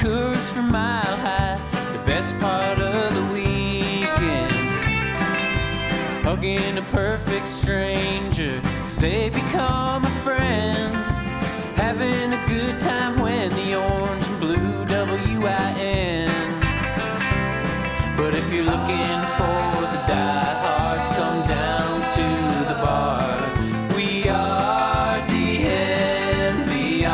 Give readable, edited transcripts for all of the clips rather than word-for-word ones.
Coors from Mile High, the best part of the weekend. Hugging a perfect stranger as they become a friend. Having a good time when the orange and blue WIN. But if you're looking for the diehards, come down to the bar. We are DNVR.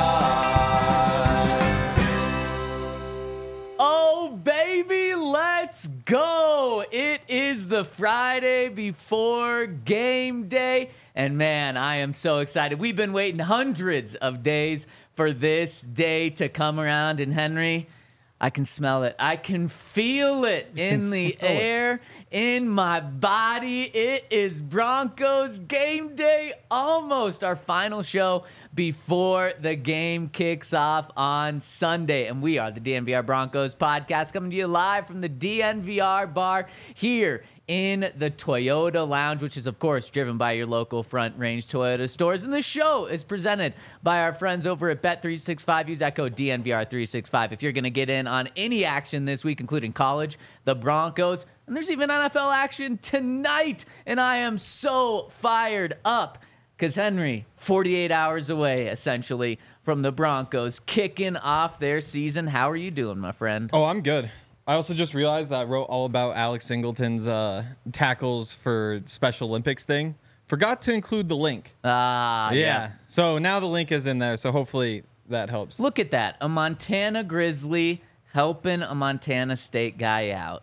Oh, baby, let's go. It is the Friday before game day. And man, I am so excited. We've been waiting hundreds of days for this day to come around. And Henry, I can smell it. I can feel it in the air, in my body. It is Broncos game day, almost our final show before the game kicks off on Sunday. And we are the DNVR Broncos podcast, coming to you live from the DNVR bar here in the Toyota Lounge, which is, of course, driven by your local Front Range Toyota stores. And the show is presented by our friends over at Bet365. Use that code DNVR365 if you're going to get in on any action this week, including college, the Broncos, and there's even NFL action tonight. And I am so fired up because, Henry, 48 hours away, essentially, from the Broncos kicking off their season. How are you doing, my friend? Oh, I'm good. I also just realized that I wrote all about Alex Singleton's tackles for Special Olympics thing. Forgot to include the link. Yeah. So now the link is in there, so hopefully that helps. Look at that. A Montana Grizzly helping a Montana State guy out.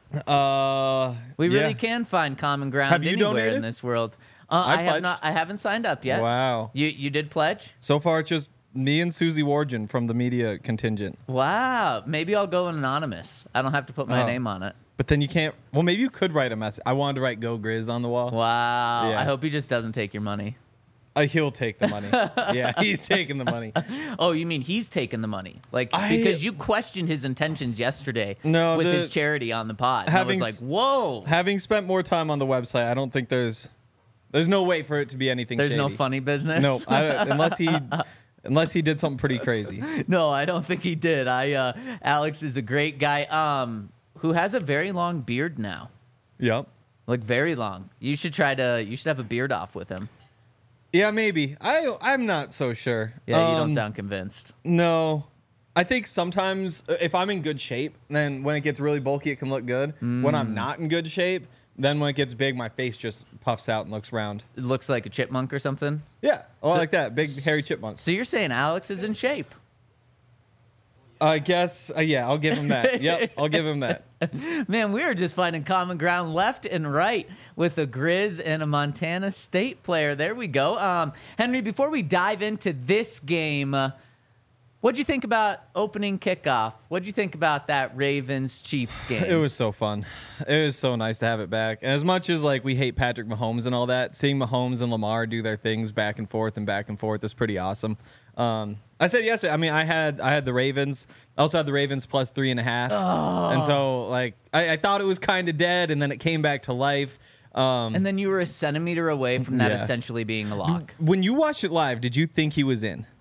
We really can find common ground Have you anywhere donated? in this world. I I have not. I haven't signed up yet. Wow. You did pledge? So far, it's just me and Susie Wargen from the media contingent. Wow. Maybe I'll go anonymous. I don't have to put my name on it. But then you can't. Well, maybe you could write a message. I wanted to write "Go Grizz" on the wall. Wow. Yeah. I hope he just doesn't take your money. He'll take the money. Yeah, he's taking the money. Oh, you mean he's taking the money? Because you questioned his intentions yesterday with his charity on the pod. And I was like, whoa. Having spent more time on the website, I don't think there's no way for it to be anything There's shady. no funny business? No, unless he did something pretty crazy. No, I don't think he did. Alex is a great guy who has a very long beard now. Yep. Like, very long. You should have a beard off with him. Yeah, maybe. I'm not so sure. Yeah, you don't sound convinced. No. I think sometimes if I'm in good shape, then when it gets really bulky, it can look good. When I'm not in good shape, then when it gets big, my face just puffs out and looks round. It looks like a chipmunk or something? Yeah, like that. Big, hairy chipmunk. So you're saying Alex is in shape? I guess, yeah, I'll give him that. Yep, I'll give him that. Man, we are just finding common ground left and right with a Grizz and a Montana State player. There we go. Henry, before we dive into this game, what'd you think about opening kickoff? What'd you think about that Ravens-Chiefs game? It was so fun. It was so nice to have it back. And as much as we hate Patrick Mahomes and all that, seeing Mahomes and Lamar do their things back and forth is pretty awesome. I said yesterday, I mean, I had the Ravens. I also had the Ravens plus 3.5. Oh. And so I thought it was kind of dead, and then it came back to life. And then you were a centimeter away from that essentially being a lock. When you watched it live, did you think he was in?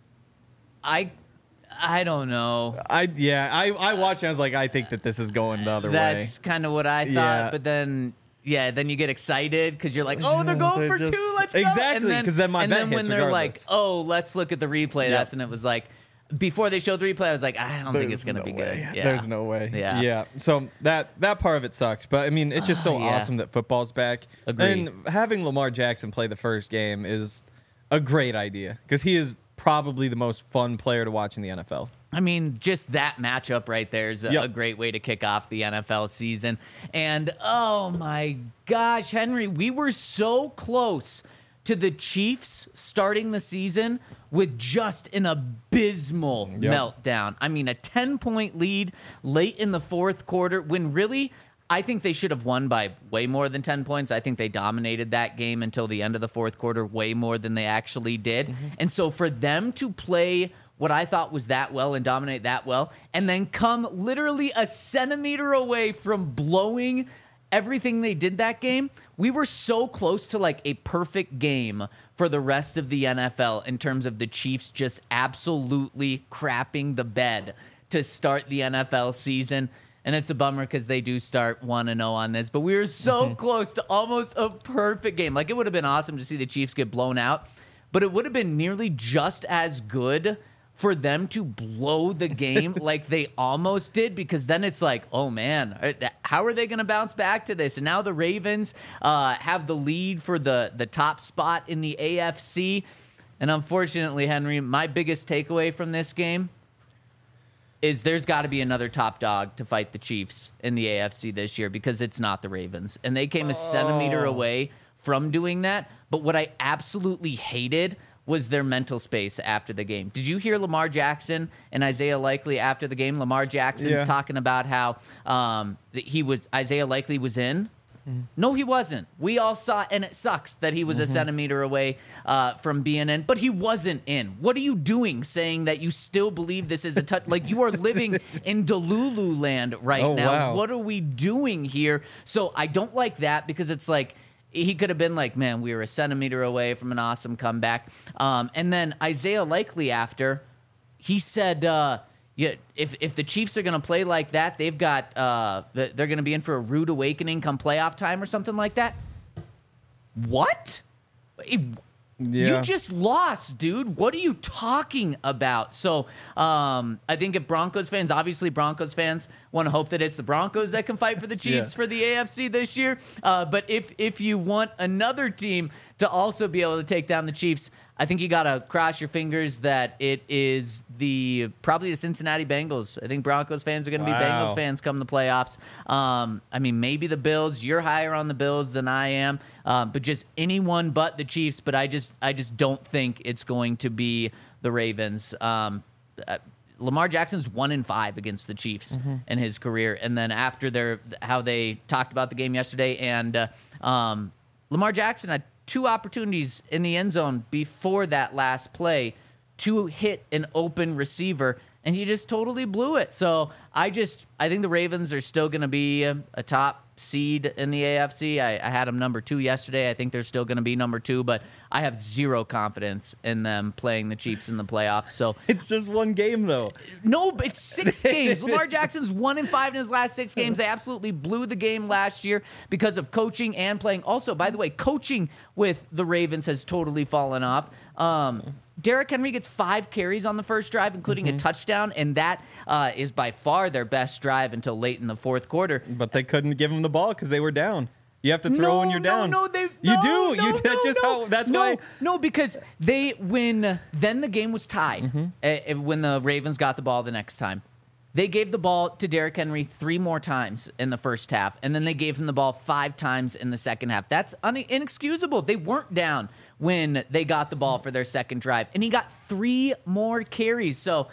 I don't know. I watched it. I was like, I think that this is going the other way. That's kind of what I thought. Yeah. But then you get excited because you're like, oh, they're going for two. Let's go. Exactly, because then my bet And then when hits they're like, regardless. oh, let's look at the replay. That's when it was like, before they showed the replay, I was like, I don't think it's going to be good. Yeah. There's no way. Yeah. So that part of it sucked. But, I mean, it's just so awesome that football's back. Agreed. And having Lamar Jackson play the first game is a great idea because he is probably the most fun player to watch in the NFL. I mean, just that matchup right there is a great way to kick off the NFL season. And, oh, my gosh, Henry, we were so close to the Chiefs starting the season with just an abysmal meltdown. I mean, a 10-point lead late in the fourth quarter when really I think they should have won by way more than 10 points. I think they dominated that game until the end of the fourth quarter way more than they actually did. Mm-hmm. And so for them to play what I thought was that well and dominate that well and then come literally a centimeter away from blowing everything they did that game, we were so close to like a perfect game for the rest of the NFL in terms of the Chiefs just absolutely crapping the bed to start the NFL season. And it's a bummer because they do start 1-0 on this. But we were so close to almost a perfect game. Like, it would have been awesome to see the Chiefs get blown out, but it would have been nearly just as good for them to blow the game like they almost did, because then it's like, oh, man, how are they going to bounce back to this? And now the Ravens have the lead for the top spot in the AFC. And unfortunately, Henry, my biggest takeaway from this game is there's got to be another top dog to fight the Chiefs in the AFC this year, because it's not the Ravens. And they came a centimeter away from doing that. But what I absolutely hated was their mental space after the game. Did you hear Lamar Jackson and Isaiah Likely after the game? Lamar Jackson's talking about how Isaiah Likely was in. No, he wasn't. We all saw, and it sucks that he was a centimeter away from being in, but he wasn't in. What are you doing saying that you still believe this is a touch? Like, you are living in Delulu land right now. Wow. What are we doing here? So I don't like that, because it's like, he could have been like, man, we were a centimeter away from an awesome comeback. And then Isaiah Likely after, he said, if the Chiefs are going to play like that, they've got they're going to be in for a rude awakening come playoff time or something like that. What? You just lost, dude. What are you talking about? So I think if Broncos fans want to hope that it's the Broncos that can fight for the Chiefs for the AFC this year. But if you want another team to also be able to take down the Chiefs, I think you got to cross your fingers that it is probably the Cincinnati Bengals. I think Broncos fans are going to be Bengals fans come the playoffs. I mean, maybe the Bills. You're higher on the Bills than I am, but just anyone but the Chiefs. But I just don't think it's going to be the Ravens. Lamar Jackson's 1-5 against the Chiefs in his career, and then after how they talked about the game yesterday, and Lamar Jackson had 2 opportunities in the end zone before that last play to hit an open receiver, and he just totally blew it. So I think the Ravens are still going to be a top seed in the AFC. I had them number 2 yesterday. I think they're still going to be number 2, but I have zero confidence in them playing the Chiefs in the playoffs. So it's just one game, though. No, but it's 6 games. Lamar Jackson's 1-5 in his last 6 games. They absolutely blew the game last year because of coaching and playing. Also, by the way, coaching with the Ravens has totally fallen off. Derrick Henry gets 5 carries on the first drive, including a touchdown, and that is by far their best drive until late in the fourth quarter. But they couldn't give him the ball because they were down. You have to throw when you're down. That's why. No, because then the game was tied when the Ravens got the ball the next time. They gave the ball to Derrick Henry 3 more times in the first half, and then they gave him the ball 5 times in the second half. That's inexcusable. They weren't down when they got the ball for their second drive, and he got 3 more carries. So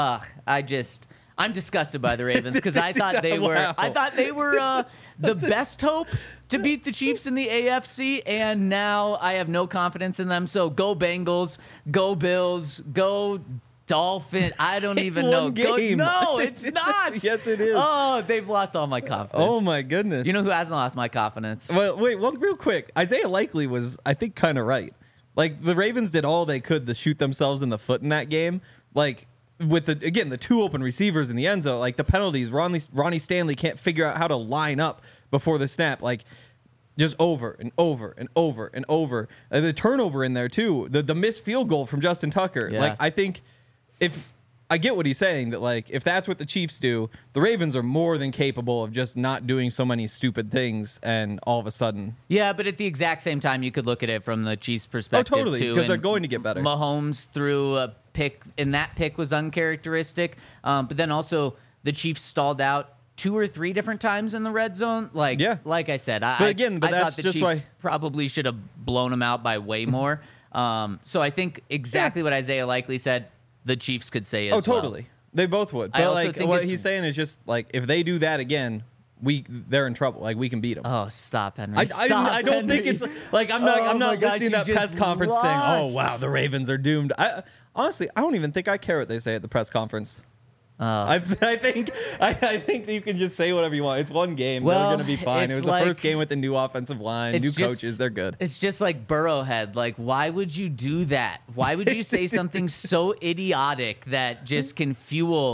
I'm disgusted by the Ravens because I thought they were the best hope to beat the Chiefs in the AFC, and now I have no confidence in them. So go Bengals, go Bills, go Dolphin. I don't even know. No, it's not. Yes, it is. Oh, they've lost all my confidence. Oh, my goodness. You know who hasn't lost my confidence? Well, wait, real quick. Isaiah Likely was, I think, kind of right. Like, the Ravens did all they could to shoot themselves in the foot in that game. Like, with the 2 open receivers in the end zone, like the penalties, Ronnie Stanley can't figure out how to line up before the snap. Like, just over and over and over and over. The turnover in there, too. The missed field goal from Justin Tucker. Yeah. Like, I think if I get what he's saying, that like if that's what the Chiefs do, the Ravens are more than capable of just not doing so many stupid things and all of a sudden. Yeah, but at the exact same time, you could look at it from the Chiefs' perspective, totally, too. because they're going to get better. Mahomes threw a pick, and that pick was uncharacteristic. But then also the Chiefs stalled out 2 or 3 different times in the red zone. Like I said, I thought the Chiefs probably should have blown them out by way more. So I think exactly what Isaiah Likely said, the Chiefs could say as well. Oh, totally. They both would. But like what he's saying is just like if they do that again, they're in trouble. Like we can beat them. Oh, stop, Henry! I don't think it's like I'm not listening to that press conference saying, "Oh wow, the Ravens are doomed." Honestly, I don't even think I care what they say at the press conference. I think you can just say whatever you want. It's one game. They're going to be fine. It was the first game with the new offensive line, new coaches. They're good. It's just like Burrowhead. Like, why would you do that? Why would you say something so idiotic that just can fuel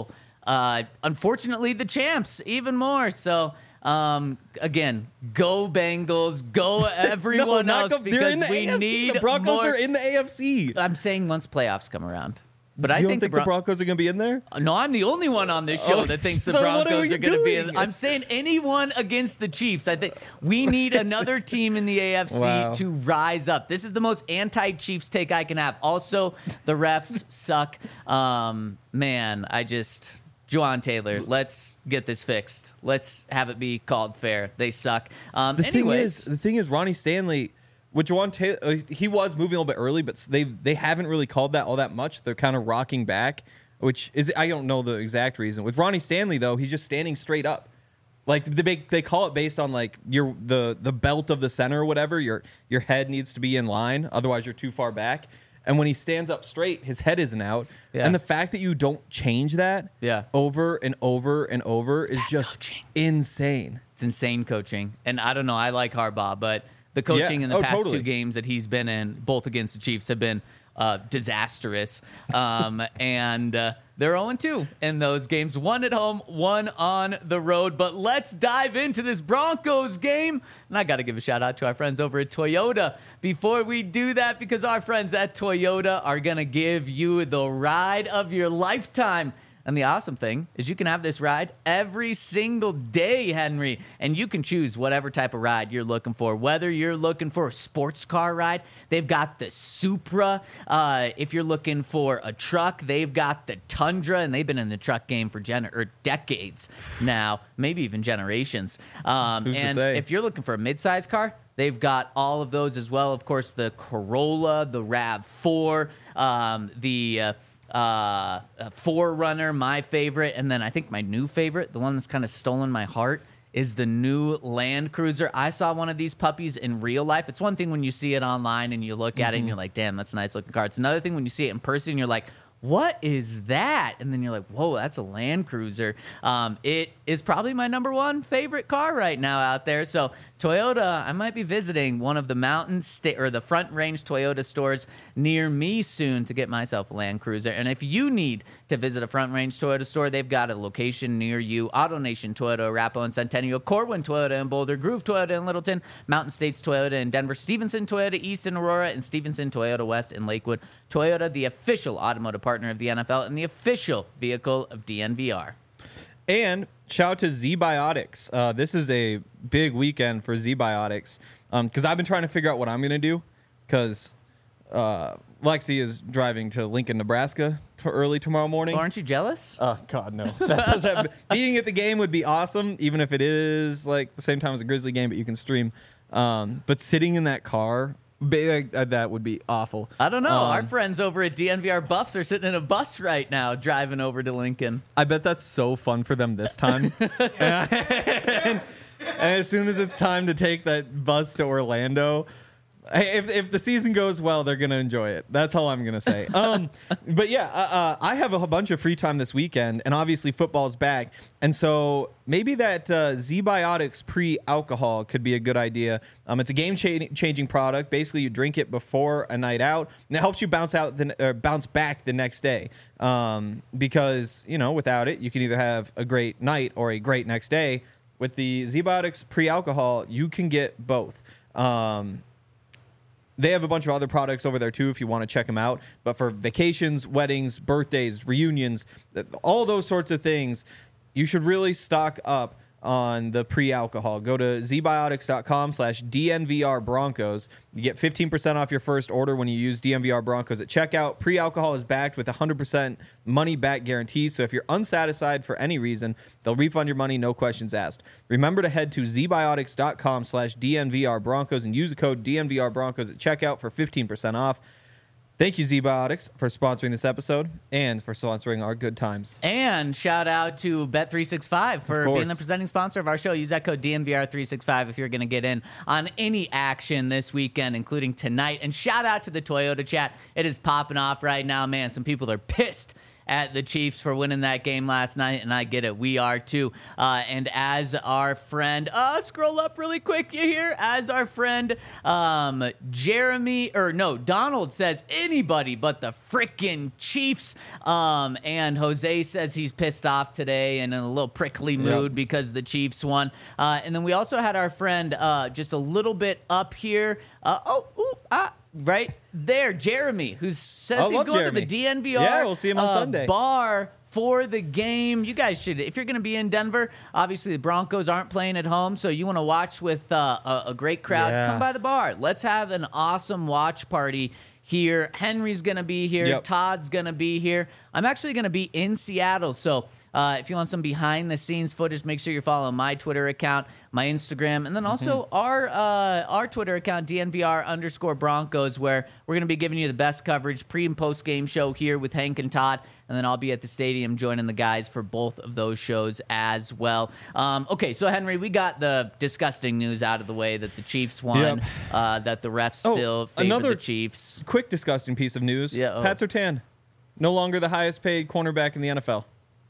unfortunately, the champs even more. So, again, go Bengals, go everyone else, because we AFC. need the Broncos more. are in the AFC. I'm saying once playoffs come around. But I You think don't think the Broncos are going to be in there? No, I'm the only one on this show that thinks the so what Broncos are are going to be in. doing? I'm saying anyone against the Chiefs. I think we need another team in the AFC Wow. to rise up. This is the most anti-Chiefs take I can have. Also, the refs suck. Man, Juwan Taylor, let's get this fixed. Let's have it be called fair. They suck. The thing is, Ronnie Stanley, with Juwan Taylor, he was moving a little bit early, but they haven't really called that all that much. They're kind of rocking back, which is, I don't know the exact reason. With Ronnie Stanley, though, he's just standing straight up. Like they call it based on like the belt of the center or whatever. Your head needs to be in line, otherwise you're too far back. And when he stands up straight, his head isn't out. Yeah. And the fact that you don't change that over and over and over is just insane. It's insane coaching. And I don't know, I like Harbaugh, but the coaching in the past two games that he's been in, both against the Chiefs, have been disastrous. And they're 0-2 in those games. One at home, one on the road. But let's dive into this Broncos game. And I got to give a shout out to our friends over at Toyota before we do that, because our friends at Toyota are going to give you the ride of your lifetime. And the awesome thing is you can have this ride every single day, Henry. And you can choose whatever type of ride you're looking for. Whether you're looking for a sports car ride, they've got the Supra. If you're looking for a truck, they've got the Tundra. And they've been in the truck game for decades now, maybe even generations. Who's to say? If you're looking for a midsize car, they've got all of those as well. Of course, the Corolla, the RAV4, the 4Runner, my favorite, and then I think my new favorite, the one that's kind of stolen my heart, is the new Land Cruiser. I saw one of these puppies in real life. It's one thing when you see it online and you look at it and you're like, damn, that's a nice looking car. It's another thing when you see it in person and you're like, what is that? And then you're like, whoa, that's a Land Cruiser. It is probably my number one favorite car right now out there. So Toyota, I might be visiting one of the the Front Range Toyota stores near me soon to get myself a Land Cruiser. And if you need to visit a Front Range Toyota store, they've got a location near you. AutoNation Toyota, Arapahoe and Centennial, Corwin Toyota in Boulder, Groove Toyota in Littleton, Mountain States Toyota in Denver, Stevenson Toyota East in Aurora, and Stevenson Toyota West in Lakewood. Toyota, the official automotive partner of the NFL and the official vehicle of DNVR. And shout out to ZBiotics. This is a big weekend for ZBiotics because I've been trying to figure out what I'm going to do because Lexi is driving to Lincoln, Nebraska early tomorrow morning. Well, aren't you jealous? Oh, God, no. That does happen. Being at the game would be awesome, even if it is like the same time as a Grizzly game, but you can stream. But sitting in that car, that would be awful. I don't know. Our friends over at DNVR Buffs are sitting in a bus right now driving over to Lincoln. I bet that's so fun for them this time. and as soon as it's time to take that bus to Orlando, if the season goes well, they're going to enjoy it. That's all I'm going to say. But yeah, I have a bunch of free time this weekend, and obviously football's back. And so maybe that ZBiotics pre-alcohol could be a good idea. It's a game-changing product. Basically, you drink it before a night out, and it helps you bounce back the next day. Because, without it, you can either have a great night or a great next day. With the ZBiotics pre-alcohol, you can get both. They have a bunch of other products over there, too, if you want to check them out. But for vacations, weddings, birthdays, reunions, all those sorts of things, you should really stock up on the pre-alcohol. Go to zbiotics.com/DNVR Broncos. You get 15% off your first order when you use DNVR Broncos at checkout. Pre-alcohol is backed with 100% money-back guarantee. So if you're unsatisfied for any reason, they'll refund your money, no questions asked. Remember to head to zbiotics.com/DNVR Broncos and use the code DNVR Broncos at checkout for 15% off. Thank you, ZBiotics, for sponsoring this episode and for sponsoring our good times. And shout out to Bet365 for being the presenting sponsor of our show. Use that code DNVR365 if you're going to get in on any action this weekend, including tonight. And shout out to the Toyota chat. It is popping off right now, man. Some people are pissed at the Chiefs for winning that game last night, and I get it. We are too. And as our friend, scroll up really quick, you hear? As our friend Donald says, anybody but the frickin' Chiefs. And Jose says he's pissed off today and in a little prickly mood because the Chiefs won. And then we also had our friend just a little bit up here. Right there, Jeremy, who says he's going to the DNVR Yeah, we'll see him on Sunday. Bar for the game. You guys should, if you're going to be in Denver, obviously the Broncos aren't playing at home, so you want to watch with a great crowd, come by the bar. Let's have an awesome watch party here. Henry's going to be here. Yep. Todd's going to be here. I'm actually going to be in Seattle, so if you want some behind-the-scenes footage, make sure you're following my Twitter account, my Instagram, and then also our Twitter account, DNVR_Broncos, where we're going to be giving you the best coverage, pre- and post-game show here with Hank and Todd, and then I'll be at the stadium joining the guys for both of those shows as well. Okay, so Henry, we got the disgusting news out of the way that the Chiefs won, that the refs still favor the Chiefs. Quick disgusting piece of news. Yeah, Pat Surtain, no longer the highest paid cornerback in the NFL.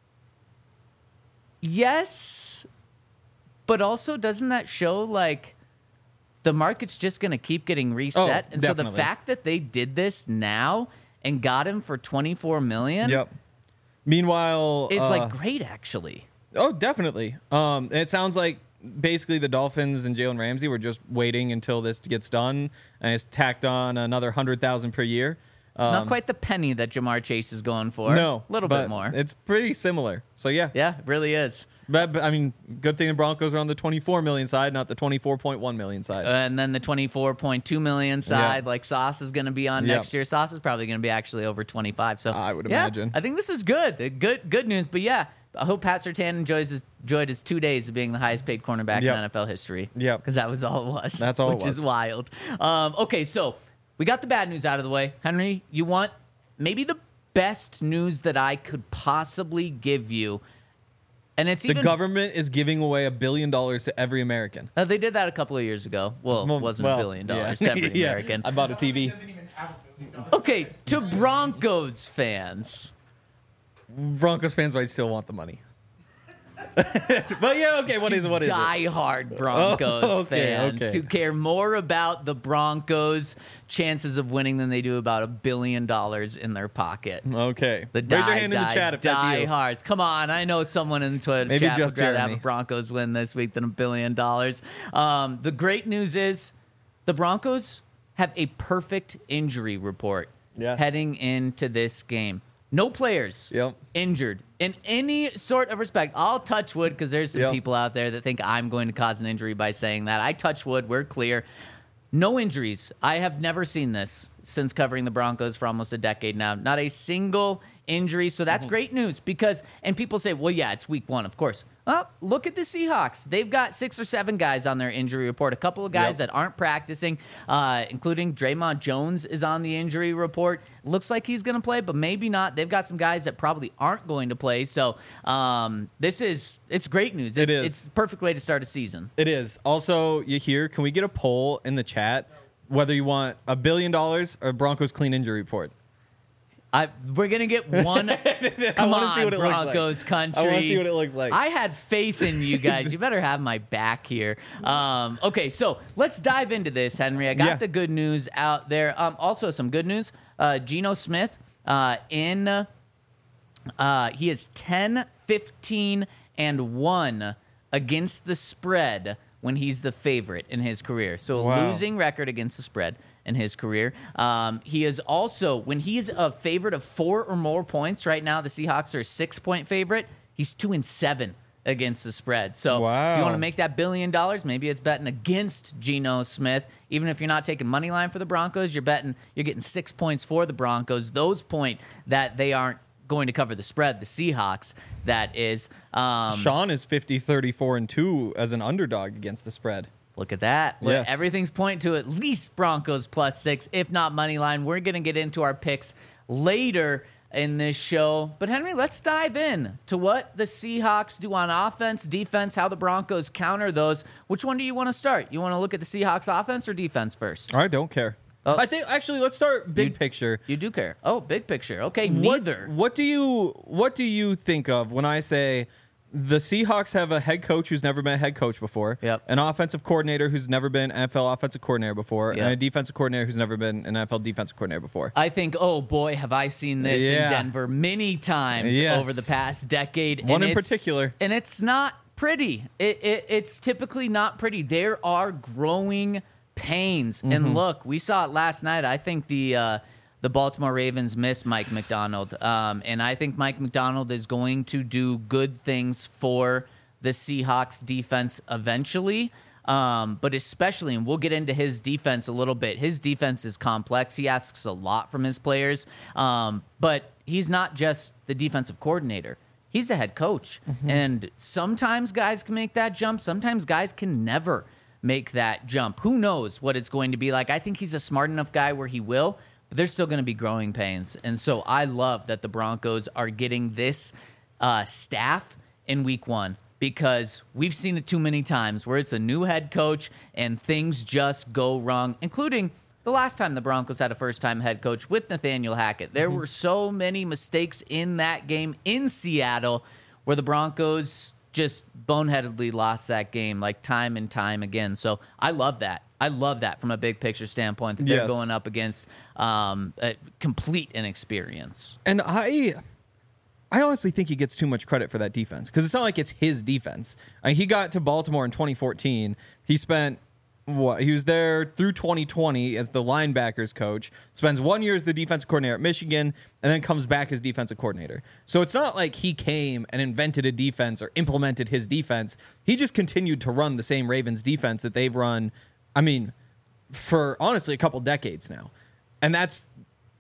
Yes, but also doesn't that show like the market's just going to keep getting reset? And definitely. So the fact that they did this now and got him for $24 million, Yep. Meanwhile, is like great actually. Oh, definitely. It sounds like basically the Dolphins and Jalen Ramsey were just waiting until this gets done, and it's tacked on another $100,000 per year. It's not quite the penny that Jamar Chase is going for. No, a little but bit more. It's pretty similar. So yeah, Yeah, it really is. But I mean, good thing the Broncos are on the 24 million side, not the 24.1 million side. And then the 24.2 million side, like Sauce is going to be on next year. Sauce is probably going to be actually over 25. So I would imagine. I think this is good. Good news. But yeah, I hope Pat Surtain enjoyed his 2 days of being the highest paid cornerback in NFL history. Yep. Because that was all it was. That's all it which was. is wild. Okay, so we got the bad news out of the way. Henry, you want maybe the best news that I could possibly give you. And it's The even government is giving away $1 billion to every American. they did that a couple of years ago. Well, it wasn't $1 billion to every Yeah. American. I bought a TV. Okay, to Broncos fans. Broncos fans might still want the money. But yeah, okay, what is it? Die-hard Broncos okay, fans okay. who care more about the Broncos' chances of winning than they do about $1 billion in their pocket. Okay. The Raise your hand in the chat if that's you. diehards. Come on, I know someone in the Twitter Maybe chat just would rather have Jeremy. a Broncos win this week than $1 billion. The great news is the Broncos have a perfect injury report heading into this game. No players injured in any sort of respect. I'll touch wood because there's some people out there that think I'm going to cause an injury by saying that. I touch wood. We're clear. No injuries. I have never seen this since covering the Broncos for almost a decade now. Not a single injury. So that's great news because, and people say, well, yeah, it's week one, of course. Well, look at the Seahawks. They've got 6 or 7 guys on their injury report. A couple of guys that aren't practicing, including Draymond Jones is on the injury report. Looks like he's going to play, but maybe not. They've got some guys that probably aren't going to play. So it's great news. It's the perfect way to start a season. It is. Also, can we get a poll in the chat whether you want $1 billion or Broncos clean injury report? We're going to get one. Come on, see what it Broncos looks like. country. I want to see what it looks like. I had faith in you guys. You better have my back here. Okay, so let's dive into this, Henry. I got the good news out there. Also, some good news. Geno Smith, he is 10, 15, and 1 against the spread when he's the favorite in his career. So a losing record against the spread in his career. He is also, when he's a favorite of 4 or more points, right now the Seahawks are a 6-point favorite, he's 2-7 against the spread. So if you want to make that $1 billion, maybe it's betting against Geno Smith. Even if you're not taking money line for the Broncos, you're getting 6 points for the Broncos. Those point that they aren't going to cover the spread, the Seahawks, that is. Sean is 50, 34, and 2 as an underdog against the spread. Look at that. Yes. Everything's pointing to at least Broncos +6, if not money line. We're going to get into our picks later in this show. But Henry, let's dive in to what the Seahawks do on offense, defense, how the Broncos counter those. Which one do you want to start? You want to look at the Seahawks offense or defense first? I don't care. Oh. I think actually let's start big picture. You do care. Oh, big picture. Okay, neither. What do you think of when I say the Seahawks have a head coach who's never been a head coach before, Yep. an offensive coordinator who's never been an NFL offensive coordinator before, Yep. and a defensive coordinator who's never been an NFL defensive coordinator before? I think, oh boy, have I seen this Yeah. in Denver many times Yes. over the past decade. One and in it's- particular. And it's not pretty. It's typically not pretty. There are growing pains. Mm-hmm. And look, we saw it last night. I think the Baltimore Ravens miss Mike McDonald. And I think Mike McDonald is going to do good things for the Seahawks defense eventually. But especially, and we'll get into his defense a little bit. His defense is complex. He asks a lot from his players. But he's not just the defensive coordinator. He's the head coach. And sometimes guys can make that jump. Sometimes guys can never make that jump. Who knows what it's going to be like? I think he's a smart enough guy where he will, but there's still going to be growing pains. And so I love that the Broncos are getting this staff in week one, because we've seen it too many times where it's a new head coach and things just go wrong, including the last time the Broncos had a first-time head coach with Nathaniel Hackett. There were so many mistakes in that game in Seattle where the Broncos just boneheadedly lost that game like time and time again. So I love that. I love that from a big picture standpoint, that they're Yes. going up against a complete inexperience. And I honestly think he gets too much credit for that defense, because it's not like it's his defense. I mean, he got to Baltimore in 2014. He spent he was there through 2020 as the linebackers coach, spends 1 year as the defensive coordinator at Michigan, and then comes back as defensive coordinator. So it's not like he came and invented a defense or implemented his defense. He just continued to run the same Ravens defense that they've run, I mean, for honestly a couple decades now. And that's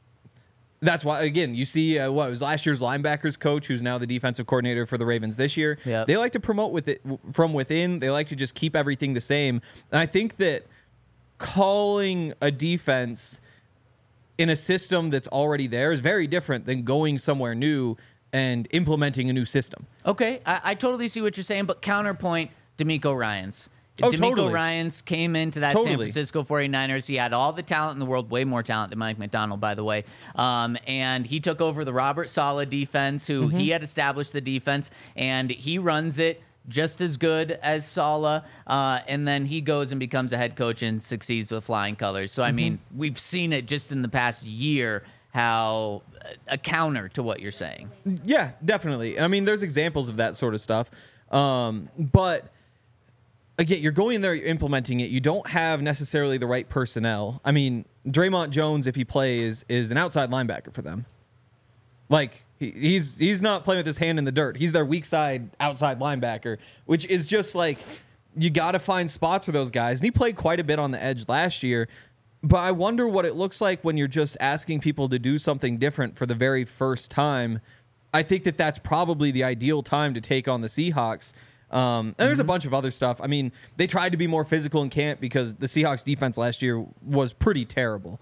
why, again, you see it was last year's linebackers coach, who's now the defensive coordinator for the Ravens this year. Yep. They like to promote from within. They like to just keep everything the same. And I think that calling a defense in a system that's already there is very different than going somewhere new and implementing a new system. Okay, I totally see what you're saying, but counterpoint, DeMeco Ryans. Oh, DeMeco totally. Ryans came into that San Totally. Francisco 49ers. He had all the talent in the world, way more talent than Mike McDonald, by the way. And he took over the Robert Saleh defense, who he had established the defense, and he runs it just as good as Saleh. And then he goes and becomes a head coach and succeeds with flying colors. So, I mean, we've seen it just in the past year, how a counter to what you're saying. Yeah, definitely. I mean, there's examples of that sort of stuff. But again, you're going in there, you're implementing it. You don't have necessarily the right personnel. I mean, Draymond Jones, if he plays, is an outside linebacker for them. Like, he's not playing with his hand in the dirt. He's their weak side outside linebacker, which is just like, you got to find spots for those guys. And he played quite a bit on the edge last year. But I wonder what it looks like when you're just asking people to do something different for the very first time. I think that that's probably the ideal time to take on the Seahawks. And there's a bunch of other stuff. I mean, they tried to be more physical in camp because the Seahawks defense last year was pretty terrible.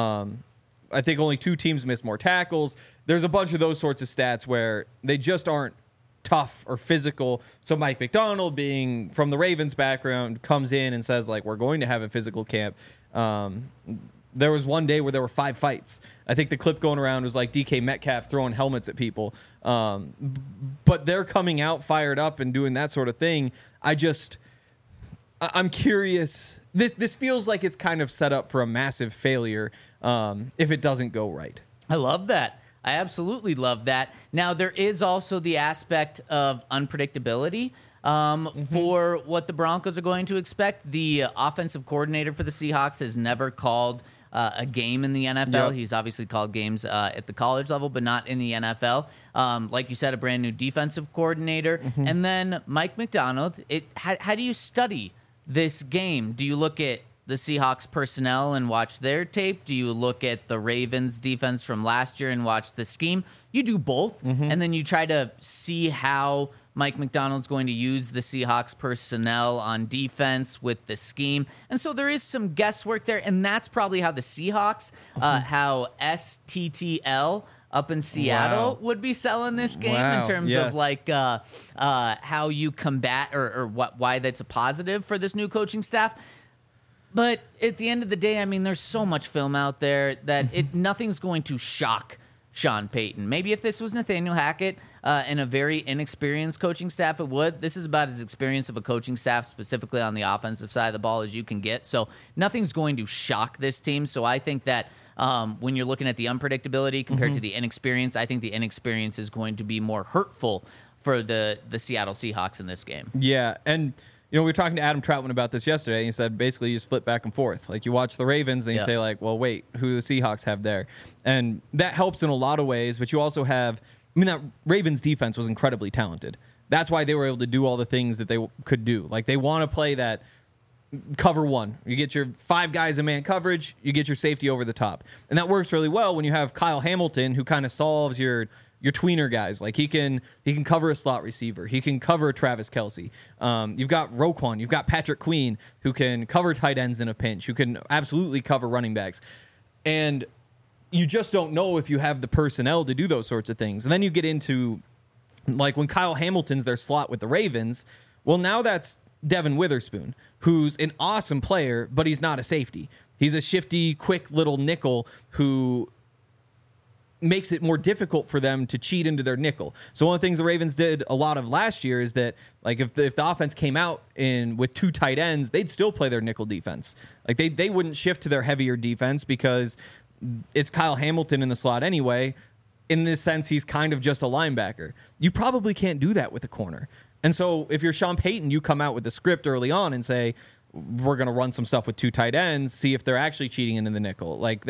I think only 2 teams missed more tackles. There's a bunch of those sorts of stats where they just aren't tough or physical. So Mike McDonald, being from the Ravens background, comes in and says, like, we're going to have a physical camp. There was one day where there were 5 fights. I think the clip going around was like DK Metcalf throwing helmets at people. But they're coming out fired up and doing that sort of thing. I'm curious. This feels like it's kind of set up for a massive failure if it doesn't go right. I love that. I absolutely love that. Now, there is also the aspect of unpredictability for what the Broncos are going to expect. The offensive coordinator for the Seahawks has never called a game in the NFL. Yep. He's obviously called games at the college level, but not in the NFL. Like you said, a brand new defensive coordinator. And then Mike McDonald. How do you study this game? Do you look at the Seahawks personnel and watch their tape? Do you look at the Ravens defense from last year and watch the scheme? You do both, and then you try to see how Mike McDonald's going to use the Seahawks personnel on defense with the scheme. And so there is some guesswork there, and that's probably how the Seahawks, how STTL up in Seattle would be selling this game in terms of like how you combat or why that's a positive for this new coaching staff. But at the end of the day, I mean, there's so much film out there that nothing's going to shock Sean Payton. Maybe if this was Nathaniel Hackett and a very inexperienced coaching staff, it would. This is about as experienced of a coaching staff, specifically on the offensive side of the ball, as you can get. So nothing's going to shock this team. So I think that when you're looking at the unpredictability compared to the inexperience, I think the inexperience is going to be more hurtful for the Seattle Seahawks in this game. Yeah, and we were talking to Adam Troutman about this yesterday, and he said basically you just flip back and forth. Like, you watch the Ravens, then you say, like, well, wait, who do the Seahawks have there? And that helps in a lot of ways, but you also have, that Ravens defense was incredibly talented. That's why they were able to do all the things that they could do. Like, they want to play that cover one. You get your 5 guys in man coverage, you get your safety over the top. And that works really well when you have Kyle Hamilton, who kind of solves your tweener guys. Like, he can cover a slot receiver. He can cover Travis Kelce. You've got Roquan. You've got Patrick Queen, who can cover tight ends in a pinch, who can absolutely cover running backs. And you just don't know if you have the personnel to do those sorts of things. And then you get into, like, when Kyle Hamilton's their slot with the Ravens, well, now that's Devin Witherspoon, who's an awesome player, but he's not a safety. He's a shifty, quick little nickel who makes it more difficult for them to cheat into their nickel. So one of the things the Ravens did a lot of last year is that, like, if the offense came out with 2 tight ends, they'd still play their nickel defense. Like, they wouldn't shift to their heavier defense because it's Kyle Hamilton in the slot anyway. In this sense, he's kind of just a linebacker. You probably can't do that with a corner. And so if you're Sean Payton, you come out with the script early on and say, we're going to run some stuff with 2 tight ends, see if they're actually cheating into the nickel. Like,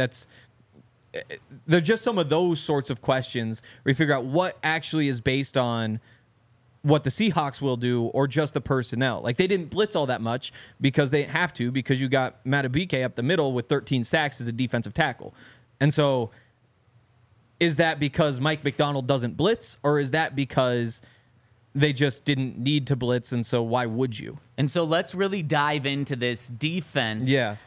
they're just some of those sorts of questions where you figure out what actually is based on what the Seahawks will do or just the personnel. Like, they didn't blitz all that much because they have to, because you got Madubuike up the middle with 13 sacks as a defensive tackle. And so is that because Mike Macdonald doesn't blitz, or is that because they just didn't need to blitz, and so why would you? And so let's really dive into this defense that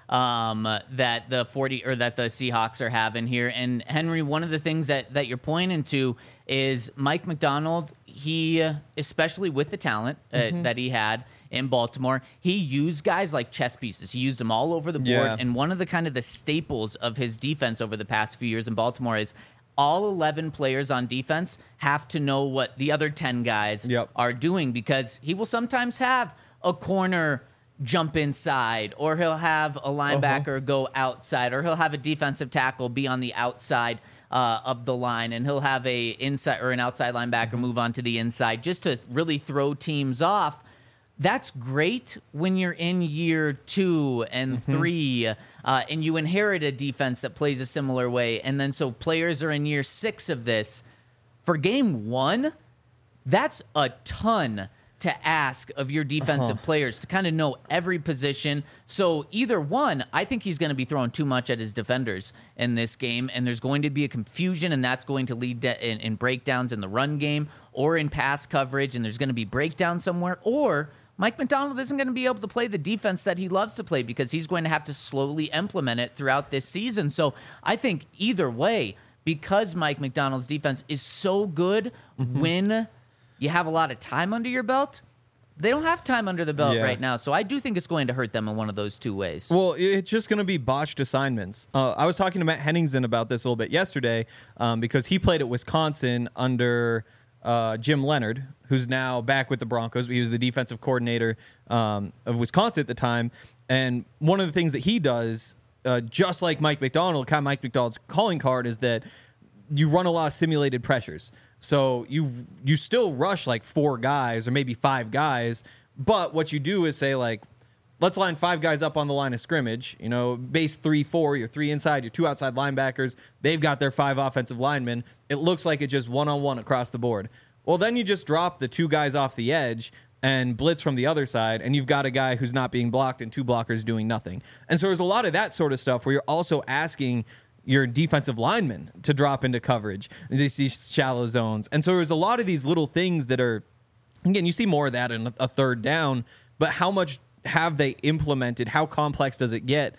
the Seahawks are having here. And Henry, one of the things that you're pointing to is Mike Macdonald. He, especially with the talent that he had in Baltimore, he used guys like chess pieces. He used them all over the board. Yeah. And one of the staples of his defense over the past few years in Baltimore is all 11 players on defense have to know what the other 10 guys are doing, because he will sometimes have a corner jump inside, or he'll have a linebacker go outside, or he'll have a defensive tackle be on the outside of the line, and he'll have a inside or an outside linebacker move on to the inside just to really throw teams off. That's great when you're in year 2 and 3 and you inherit a defense that plays a similar way. And then so players are in year 6 of this. For game 1, that's a ton to ask of your defensive players to kind of know every position. So either one, I think he's going to be throwing too much at his defenders in this game, and there's going to be a confusion, and that's going to lead to in breakdowns in the run game or in pass coverage, and there's going to be breakdown somewhere, or Mike Macdonald isn't going to be able to play the defense that he loves to play because he's going to have to slowly implement it throughout this season. So I think either way, because Mike Macdonald's defense is so good when you have a lot of time under your belt, they don't have time under the belt right now. So I do think it's going to hurt them in one of those 2 ways. Well, it's just going to be botched assignments. I was talking to Matt Henningsen about this a little bit yesterday because he played at Wisconsin under Jim Leonard, who's now back with the Broncos. He was the defensive coordinator of Wisconsin at the time. And one of the things that he does, just like Mike Macdonald, kind of Mike Macdonald's calling card, is that you run a lot of simulated pressures. So you still rush like 4 guys or maybe 5 guys, but what you do is say, like, let's line 5 guys up on the line of scrimmage, base 3-4, your 3 inside, your 2 outside linebackers. They've got their 5 offensive linemen. It looks like it's just one-on-one across the board. Well, then you just drop the 2 guys off the edge and blitz from the other side, and you've got a guy who's not being blocked and 2 blockers doing nothing. And so there's a lot of that sort of stuff where you're also asking your defensive linemen to drop into coverage, these shallow zones. And so there's a lot of these little things that are, again, you see more of that in a 3rd down, but how much have they implemented? How complex does it get?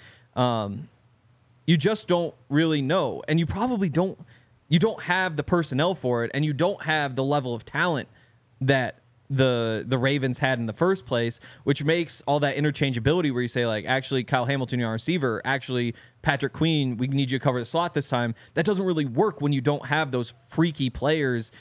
You just don't really know. And you probably don't have the personnel for it, and you don't have the level of talent that the Ravens had in the first place, which makes all that interchangeability where you say, like, actually, Kyle Hamilton, your receiver, actually, Patrick Queen, we need you to cover the slot this time. That doesn't really work when you don't have those freaky players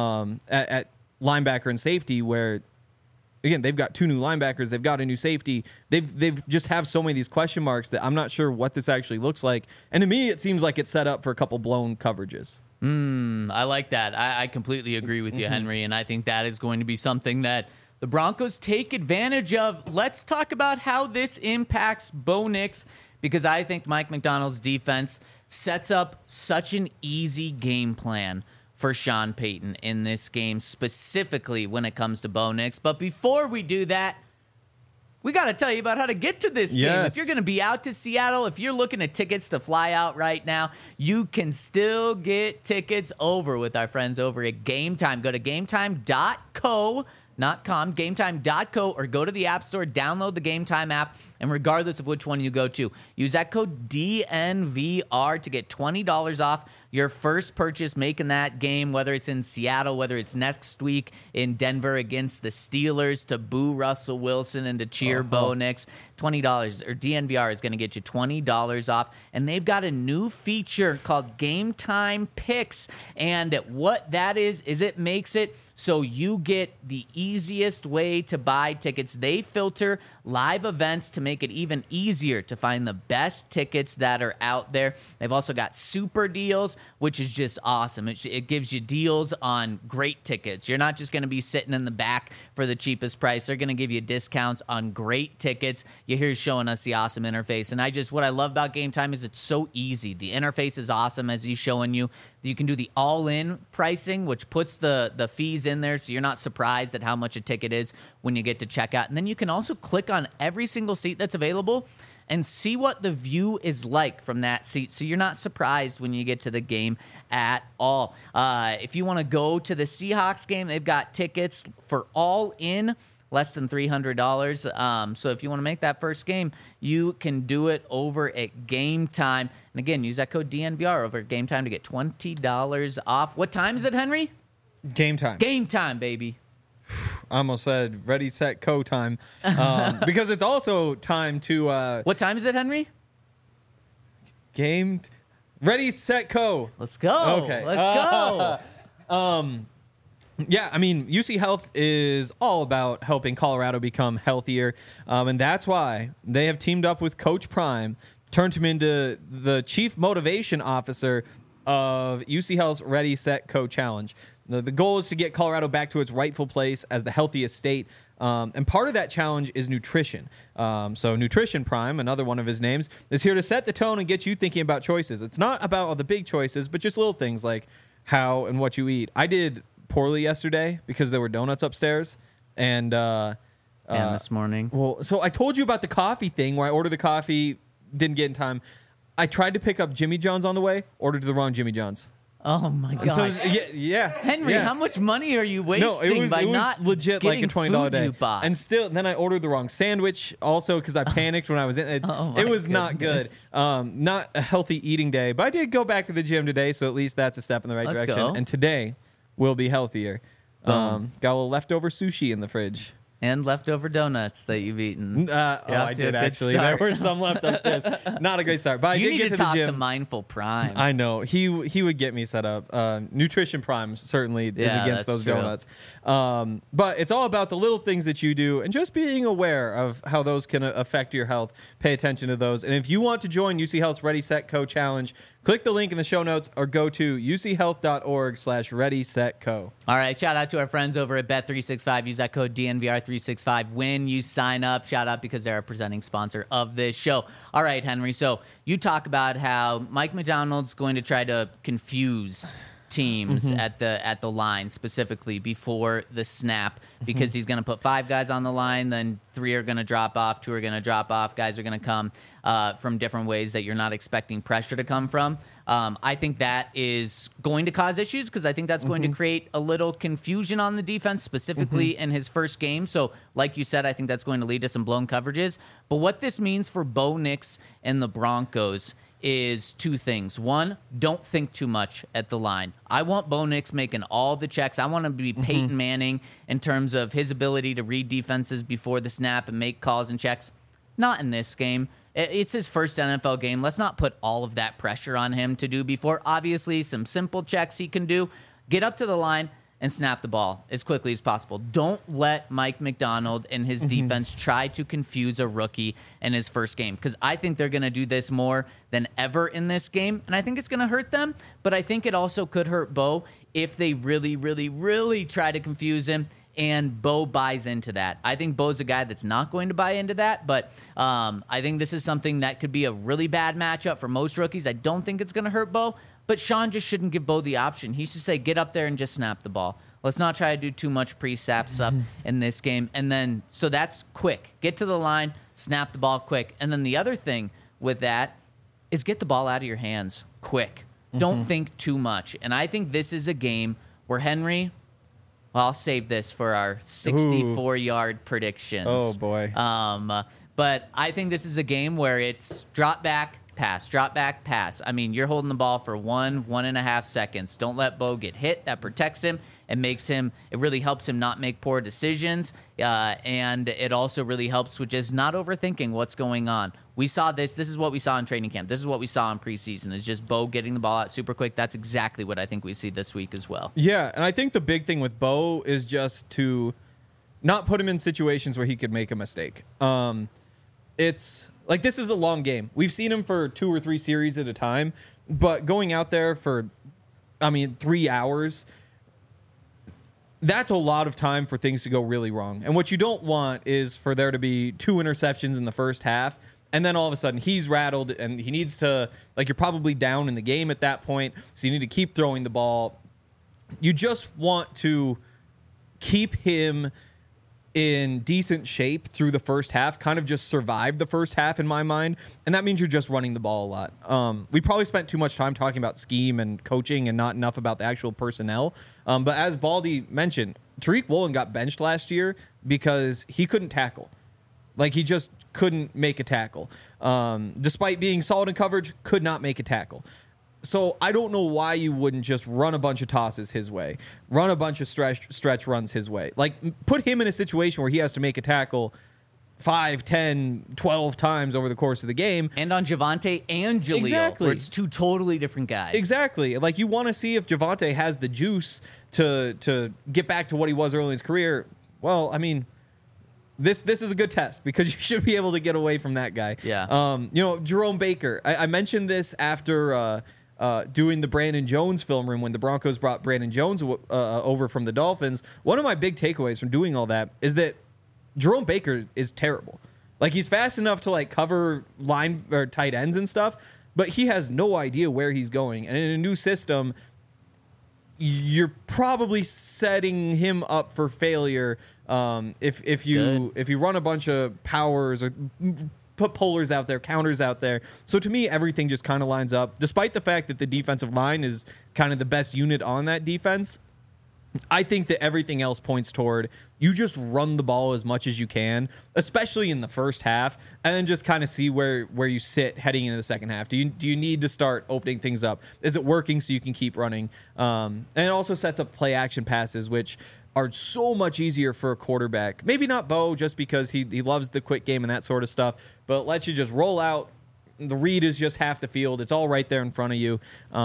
at linebacker and safety where, again, they've got 2 new linebackers, they've got a new safety. They've just have so many of these question marks that I'm not sure what this actually looks like. And to me, it seems like it's set up for a couple blown coverages. I like that. I completely agree with you, Henry, and I think that is going to be something that the Broncos take advantage of. Let's talk about how this impacts Bo Nix, because I think Mike Macdonald's defense sets up such an easy game plan for Sean Payton in this game, specifically when it comes to Bo Nix. But before we do that, we got to tell you about how to get to this game. If you're going to be out to Seattle, if you're looking at tickets to fly out right now, you can still get tickets over with our friends over at Game Time. Go to gametime.co, not com, gametime.co, or go to the App Store, download the Game Time app, and regardless of which one you go to, use that code DNVR to get $20 off your first purchase making that game, whether it's in Seattle, whether it's next week in Denver against the Steelers, to boo Russell Wilson and to cheer Bo Nix. $20 or DNVR is going to get you $20 off. And they've got a new feature called Game Time Picks. And what that is it makes it so you get the easiest way to buy tickets. They filter live events to make it even easier to find the best tickets that are out there. They've also got super deals, which is just awesome. It gives you deals on great tickets. You're not just going to be sitting in the back for the cheapest price. They're going to give you discounts on great tickets. You hear showing us the awesome interface. And what I love about Game Time is it's so easy. The interface is awesome as he's showing you. You can do the all-in pricing, which puts the fees in there so you're not surprised at how much a ticket is when you get to checkout. And then you can also click on every single seat that's available and see what the view is like from that seat, so you're not surprised when you get to the game at all. If you want to go to the Seahawks game, they've got tickets for all in less than $300. So if you want to make that first game, you can do it over at Game Time. And again, use that code DNVR over at Game Time to get $20 off. What time is it, Henry? Game time. Game time, baby. I almost said ready, set, go time. Because it's also time to... What time is it, Henry? Ready, set, go. Let's go. Okay. Let's go. Yeah, I mean, UC Health is all about helping Colorado become healthier. And that's why they have teamed up with Coach Prime, turned him into the chief motivation officer of UC Health's Ready, Set, Go Challenge. The goal is to get Colorado back to its rightful place as the healthiest state. And part of that challenge is nutrition. So Nutrition Prime, another one of his names, is here to set the tone and get you thinking about choices. It's not about all the big choices, but just little things like how and what you eat. I did poorly yesterday because there were donuts upstairs. And this morning. Well, so I told you about the coffee thing where I ordered the coffee, didn't get in time. I tried to pick up Jimmy John's on the way, ordered the wrong Jimmy John's. Oh my God! So yeah, Henry, how much money are you wasting by not legit like a $20 day? You bought? And still, then I ordered the wrong sandwich also because I panicked when I was in it. It was not good. Not a healthy eating day, but I did go back to the gym today, so at least that's a step in the right direction. Go. And today will be healthier. Got a little leftover sushi in the fridge. And leftover donuts that you've eaten. I did actually. There were some left upstairs. Not a great start, but I did get to the gym. You need to talk to Mindful Prime. I know he would get me set up. Nutrition Prime certainly is against those donuts. But it's all about the little things that you do and just being aware of how those can affect your health. Pay attention to those. And if you want to join UC Health's Ready, Set, Go Challenge, click the link in the show notes or go to uchealth.org/Ready, Set, Go. All right. Shout out to our friends over at Bet365. Use that code DNVR365 when you sign up. Shout out because they're a presenting sponsor of this show. All right, Henry. So you talk about how Mike Macdonald's going to try to confuse teams at the line, specifically before the snap, because he's going to put 5 guys on the line, then 3 are going to drop off, 2 are going to drop off, guys are going to come from different ways that you're not expecting pressure to come from. I think that is going to cause issues because I think that's going to create a little confusion on the defense, specifically in his first game. So, like you said, I think that's going to lead to some blown coverages. But what this means for Bo Nix and the Broncos is two things. One, don't think too much at the line. I want Bo Nix making all the checks. I want him to be Peyton Manning in terms of his ability to read defenses before the snap and make calls and checks. Not in this game. It's his first NFL game. Let's not put all of that pressure on him to do before. Obviously, some simple checks he can do. Get up to the line and snap the ball as quickly as possible. Don't let Mike McDonald and his defense try to confuse a rookie in his first game, because I think they're going to do this more than ever in this game, and I think it's going to hurt them, but I think it also could hurt Bo if they really, really, really try to confuse him, and Bo buys into that. I think Bo's a guy that's not going to buy into that, but I think this is something that could be a really bad matchup for most rookies. I don't think it's going to hurt Bo, but Sean just shouldn't give Bo the option. He should say, get up there and just snap the ball. Let's not try to do too much pre-snap stuff in this game. And then, so that's quick. Get to the line, snap the ball quick. And then the other thing with that is get the ball out of your hands quick. Don't think too much. And I think this is a game where Henry, well, I'll save this for our 64-yard predictions. Oh, boy. But I think this is a game where it's drop back, pass, drop back, pass. I mean, you're holding the ball for 1.5 seconds. Don't let Bo get hit. That protects him and makes him, it really helps him not make poor decisions. And it also really helps with just not overthinking what's going on. We saw this. This is what we saw in training camp. This is what we saw in preseason, is just Bo getting the ball out super quick. That's exactly what I think we see this week as well. Yeah, and I think the big thing with Bo is just to not put him in situations where he could make a mistake. It's like, this is a long game. We've seen him for 2 or 3 series at a time, but going out there for, 3 hours, that's a lot of time for things to go really wrong. And what you don't want is for there to be 2 interceptions in the first half, and then all of a sudden he's rattled and he needs to, like, you're probably down in the game at that point, so you need to keep throwing the ball. You just want to keep him in decent shape through the first half, kind of just survive the first half in my mind, and that means you're just running the ball a lot. We probably spent too much time talking about scheme and coaching and not enough about the actual personnel. But as Baldy mentioned, Tariq Woolen got benched last year because he couldn't tackle. Like, he just couldn't make a tackle. Despite being solid in coverage, could not make a tackle. So I don't know why you wouldn't just run a bunch of tosses his way, run a bunch of stretch runs his way. Like, put him in a situation where he has to make a tackle 5, 10, 12 times over the course of the game. And on Javonte and Jaleel, Exactly. where it's 2 totally different guys. Exactly. Like, you want to see if Javonte has the juice to get back to what he was early in his career. Well, I mean, this is a good test because you should be able to get away from that guy. Yeah. Jerome Baker. I mentioned this after doing the Brandon Jones film room when the Broncos brought Brandon Jones over from the Dolphins. One of my big takeaways from doing all that is that Jerome Baker is terrible. Like, he's fast enough to, like, cover line or tight ends and stuff, but he has no idea where he's going. And in a new system, you're probably setting him up for failure if you run a bunch of powers or put pullers out there, counters out there. So to me, everything just kind of lines up. Despite the fact that the defensive line is kind of the best unit on that defense, I think that everything else points toward you just run the ball as much as you can, especially in the first half, and then just kind of see where you sit heading into the second half. Do you need to start opening things up? Is it working so you can keep running? And it also sets up play action passes, which are so much easier for a quarterback. Maybe not Bo, just because he loves the quick game and that sort of stuff, but lets you just roll out. The read is just half the field. It's all right there in front of you.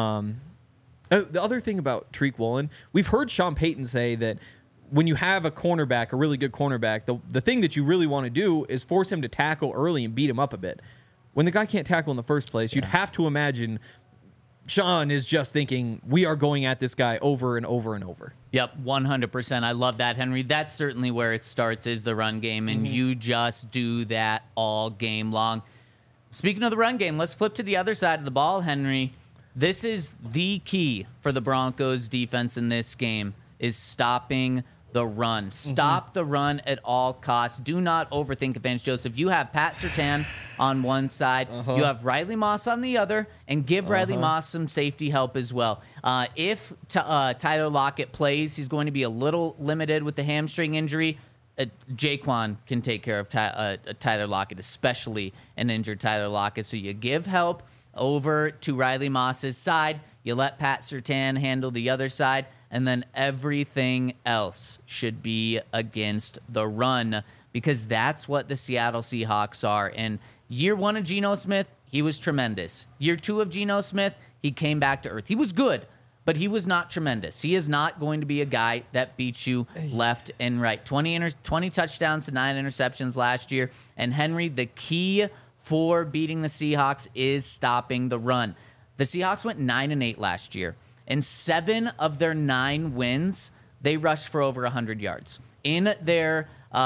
The other thing about Tariq Woolen, we've heard Sean Payton say that when you have a cornerback, a really good cornerback, the thing that you really want to do is force him to tackle early and beat him up a bit. When the guy can't tackle in the first place, you'd have to imagine Sean is just thinking, we are going at this guy over and over and over. Yep, 100%. I love that, Henry. That's certainly where it starts, is the run game, and you just do that all game long. Speaking of the run game, let's flip to the other side of the ball, Henry. This is the key for the Broncos defense in this game, is stopping the run. Stop the run at all costs. Do not overthink it, Vance Joseph. You have Pat Surtain on one side. You have Riley Moss on the other, and give Riley Moss some safety help as well. If Tyler Lockett plays, he's going to be a little limited with the hamstring injury. Jaquan can take care of Tyler Lockett, especially an injured Tyler Lockett. So you give help over to Riley Moss's side. You let Pat Surtain handle the other side, and then everything else should be against the run, because that's what the Seattle Seahawks are. And year 1 of Geno Smith, he was tremendous. Year 2 of Geno Smith, he came back to earth. He was good, but he was not tremendous. He is not going to be a guy that beats you left and right. 20 touchdowns to 9 interceptions last year. And Henry, the key for beating the Seahawks is stopping the run. The Seahawks went 9-8 last year. In 7 of their 9 wins, they rushed for over 100 yards. In their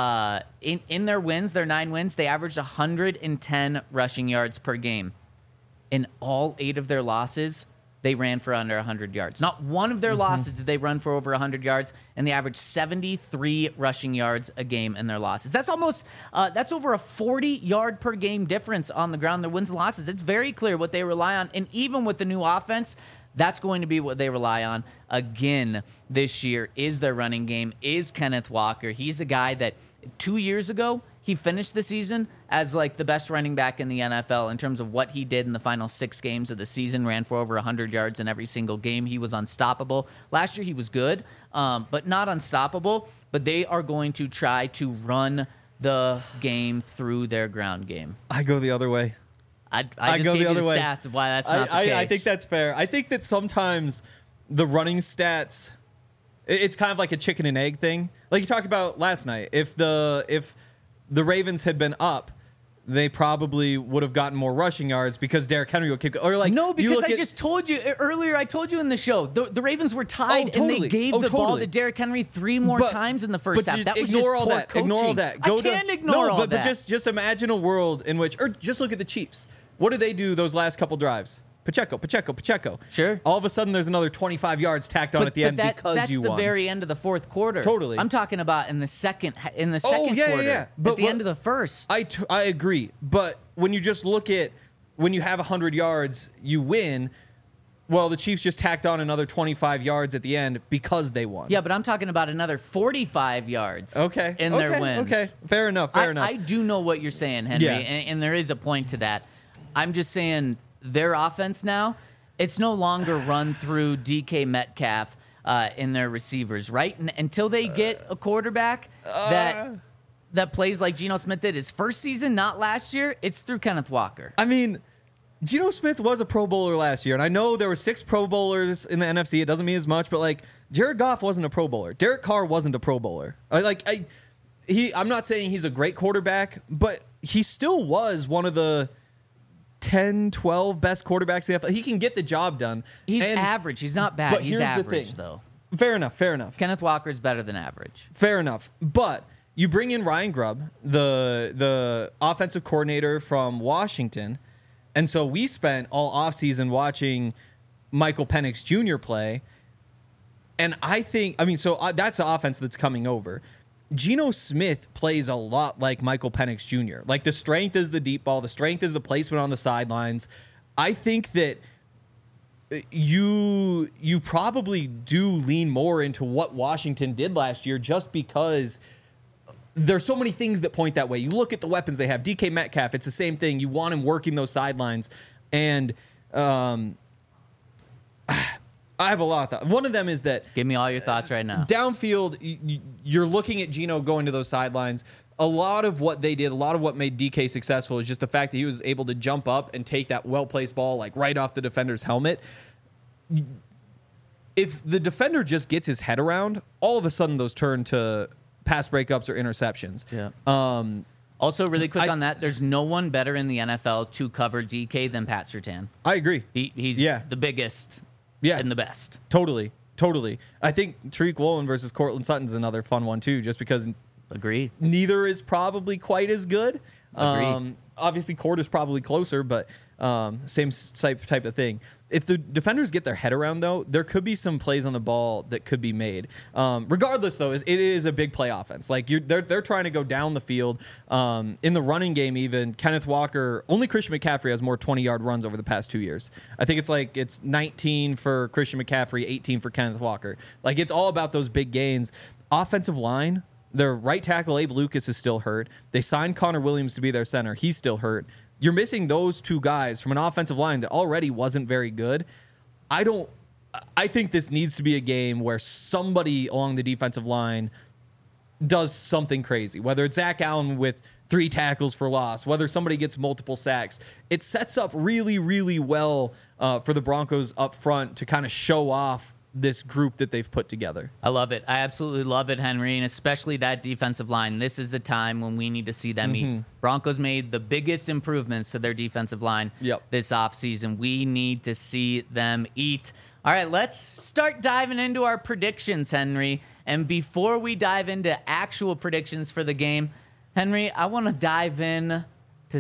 wins, their 9 wins, they averaged 110 rushing yards per game. In all 8 of their losses, they ran for under 100 yards. Not one of their losses did they run for over 100 yards, and they averaged 73 rushing yards a game in their losses. That's almost, that's over a 40-yard per game difference on the ground, their wins and losses. It's very clear what they rely on, and even with the new offense, that's going to be what they rely on again this year, is their running game, is Kenneth Walker. He's a guy that 2 years ago, he finished the season as like the best running back in the NFL in terms of what he did in the final 6 games of the season, ran for over 100 yards in every single game. He was unstoppable. Last year he was good, but not unstoppable. But they are going to try to run the game through their ground game. I go the other way. I just gave you the stats of why that's not the case. I think that's fair. I think that sometimes the running stats, it's kind of like a chicken and egg thing. Like you talked about last night. If the Ravens had been up, they probably would have gotten more rushing yards because Derrick Henry would kick. Or like no, because I just told you earlier. I told you in the show the Ravens were tied and they gave the ball to Derrick Henry 3 more times in the first half. That was just poor coaching. Ignore all that. I can't ignore all that. But just imagine a world in which, or just look at the Chiefs. What did they do those last couple drives? Pacheco. Sure. All of a sudden, there's another 25 yards tacked on at the end because you won. That's the very end of the fourth quarter. Totally. I'm talking about in the second quarter. But at the end of the first. I agree. But when you just look at when you have 100 yards, you win. Well, the Chiefs just tacked on another 25 yards at the end because they won. Yeah, but I'm talking about another 45 yards in their wins. Okay, fair enough. I do know what you're saying, Henry, Yeah. and there is a point to that. I'm just saying their offense now, it's no longer run through DK Metcalf in their receivers, right? Until they get a quarterback that plays like Geno Smith did his first season, not last year, it's through Kenneth Walker. I mean, Geno Smith was a Pro Bowler last year, and I know there were 6 Pro Bowlers in the NFC. It doesn't mean as much, but like Jared Goff wasn't a Pro Bowler. Derek Carr wasn't a Pro Bowler. I'm not saying he's a great quarterback, but he still was one of the 10, 12 best quarterbacks in the NFL. He can get the job done. He's average. He's not bad. But he's here's average, the thing. though. Fair enough. Kenneth Walker's better than average. Fair enough. But you bring in Ryan Grubb, the offensive coordinator from Washington, and so we spent all offseason watching Michael Penix Jr. play, and that's the offense that's coming over. Geno Smith plays a lot like Michael Penix Jr. Like, the strength is the deep ball. The strength is the placement on the sidelines. I think that you probably do lean more into what Washington did last year just because there's so many things that point that way. You look at the weapons they have. DK Metcalf, it's the same thing. You want him working those sidelines. And I have a lot of thoughts. One of them is that... Give me all your thoughts right now. Downfield, you're looking at Geno going to those sidelines. A lot of what they did, a lot of what made DK successful is just the fact that he was able to jump up and take that well-placed ball like right off the defender's helmet. If the defender just gets his head around, all of a sudden those turn to pass breakups or interceptions. Yeah. Also, really quick on that, there's no one better in the NFL to cover DK than Pat Surtain. I agree. He's the biggest... Yeah. And the best. Totally. I think Tariq Woolen versus Cortland Sutton's another fun one, too, just because Agreed. neither is probably quite as good. Agreed. Obviously, Cord is probably closer, but same type of thing. If the defenders get their head around, though, there could be some plays on the ball that could be made. Regardless, though, it is a big play offense. Like they're trying to go down the field. In the running game, even Kenneth Walker, only Christian McCaffrey has more 20-yard runs over the past 2 years. I think it's 19 for Christian McCaffrey, 18 for Kenneth Walker. Like it's all about those big gains. Offensive line. Their right tackle, Abe Lucas, is still hurt. They signed Connor Williams to be their center. He's still hurt. You're missing those two guys from an offensive line that already wasn't very good. I think this needs to be a game where somebody along the defensive line does something crazy, whether it's Zach Allen with 3 tackles for loss, whether somebody gets multiple sacks. It sets up really, really well for the Broncos up front to kind of show off this group that they've put together. I love it. I absolutely love it, Henry, and especially that defensive line. This is the time when we need to see them eat. Broncos made the biggest improvements to their defensive line this offseason. We need to see them eat. All right, let's start diving into our predictions, Henry. And before we dive into actual predictions for the game, Henry, I want to dive in to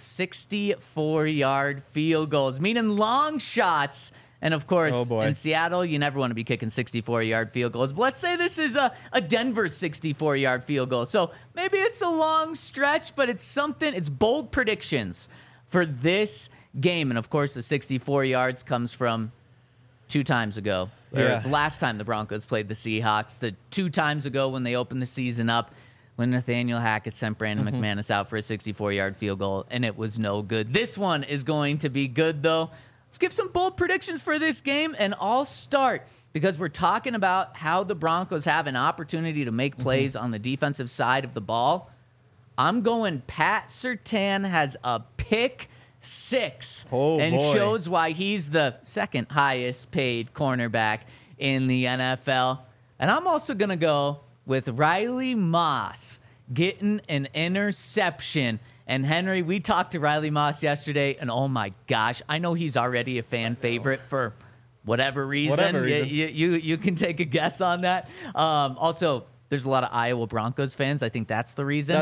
64-yard field goals, meaning long shots. And, of course, in Seattle, you never want to be kicking 64-yard field goals. But let's say this is a Denver 64-yard field goal. So maybe it's a long stretch, but it's something. It's bold predictions for this game. And, of course, the 64 yards comes from 2 times ago. Or the last time the Broncos played the Seahawks. The 2 times ago when they opened the season up, when Nathaniel Hackett sent Brandon McManus out for a 64-yard field goal, and it was no good. This one is going to be good, though. Let's give some bold predictions for this game, and I'll start because we're talking about how the Broncos have an opportunity to make plays on the defensive side of the ball. I'm going Pat Surtain has a pick 6 shows why he's the second highest paid cornerback in the NFL. And I'm also going to go with Riley Moss getting an interception. And Henry, we talked to Riley Moss yesterday, and oh my gosh, I know he's already a fan favorite for whatever reason. You can take a guess on that. Also, there's a lot of Iowa Broncos fans. I think that's the reason.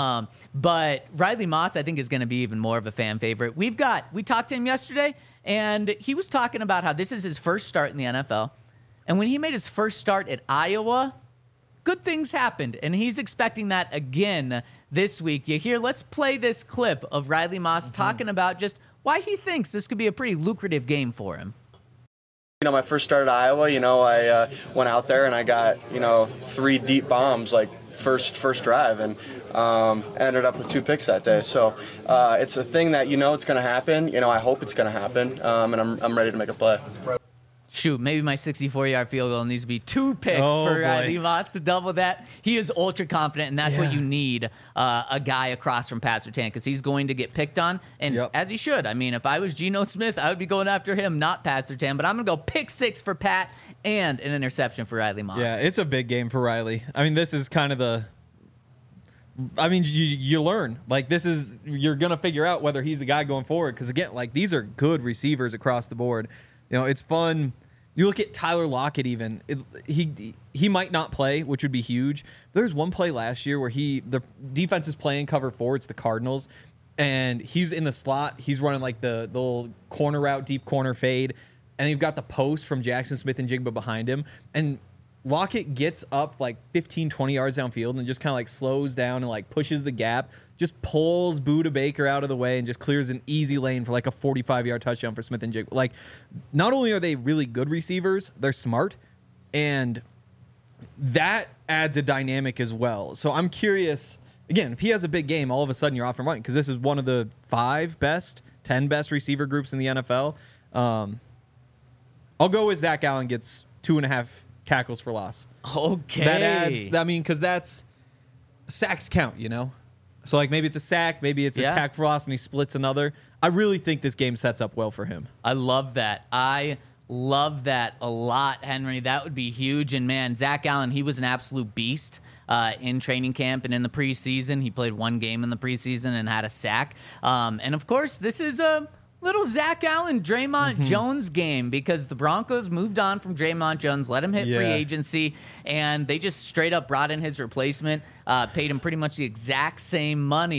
But Riley Moss, I think, is going to be even more of a fan favorite. We talked to him yesterday, and he was talking about how this is his first start in the NFL. And when he made his first start at Iowa, good things happened, and he's expecting that again this week. Let's play this clip of Riley Moss talking about just why he thinks this could be a pretty lucrative game for him. My first start at Iowa, I went out there and I got, 3 deep bombs, like first drive, and ended up with 2 picks that day. So it's a thing that it's going to happen. I hope it's going to happen, and I'm ready to make a play. Shoot, maybe my 64-yard field goal needs to be 2 picks for Riley Moss to double that. He is ultra confident, and that's what you need, a guy across from Pat Surtain, because he's going to get picked on, and as he should. I mean, if I was Geno Smith, I would be going after him, not Pat Surtain, but I'm going to go pick 6 for Pat and an interception for Riley Moss. Yeah, it's a big game for Riley. I mean, this is kind of you learn. Like, you're going to figure out whether he's the guy going forward, because, again, like, these are good receivers across the board. It's fun. You look at Tyler Lockett even. He might not play, which would be huge. But there's one play last year where the defense is playing cover 4. It's the Cardinals. And he's in the slot. He's running like the little corner route, deep corner fade. And you've got the post from Jackson Smith-Njigba behind him. And Lockett gets up like 15, 20 yards downfield and just kind of like slows down and like pushes the gap. Just pulls Budda Baker out of the way and just clears an easy lane for like a 45-yard touchdown for Smith-Njigba. Like, not only are they really good receivers, they're smart, and that adds a dynamic as well. So I'm curious, again, if he has a big game, all of a sudden you're off and running, because this is one of the 10 best receiver groups in the NFL. I'll go with Zach Allen gets 2.5 tackles for loss. Okay. That adds, because that's sacks count, So, like, maybe it's a sack, maybe it's a tack for loss, and he splits another. I really think this game sets up well for him. I love that. I love that a lot, Henry. That would be huge. And, man, Zach Allen, he was an absolute beast in training camp and in the preseason. He played 1 game in the preseason and had a sack. And, of course, this is a little Zach Allen, Draymond Jones game, because the Broncos moved on from Draymond Jones, let him hit free agency, and they just straight up brought in his replacement, paid him pretty much the exact same money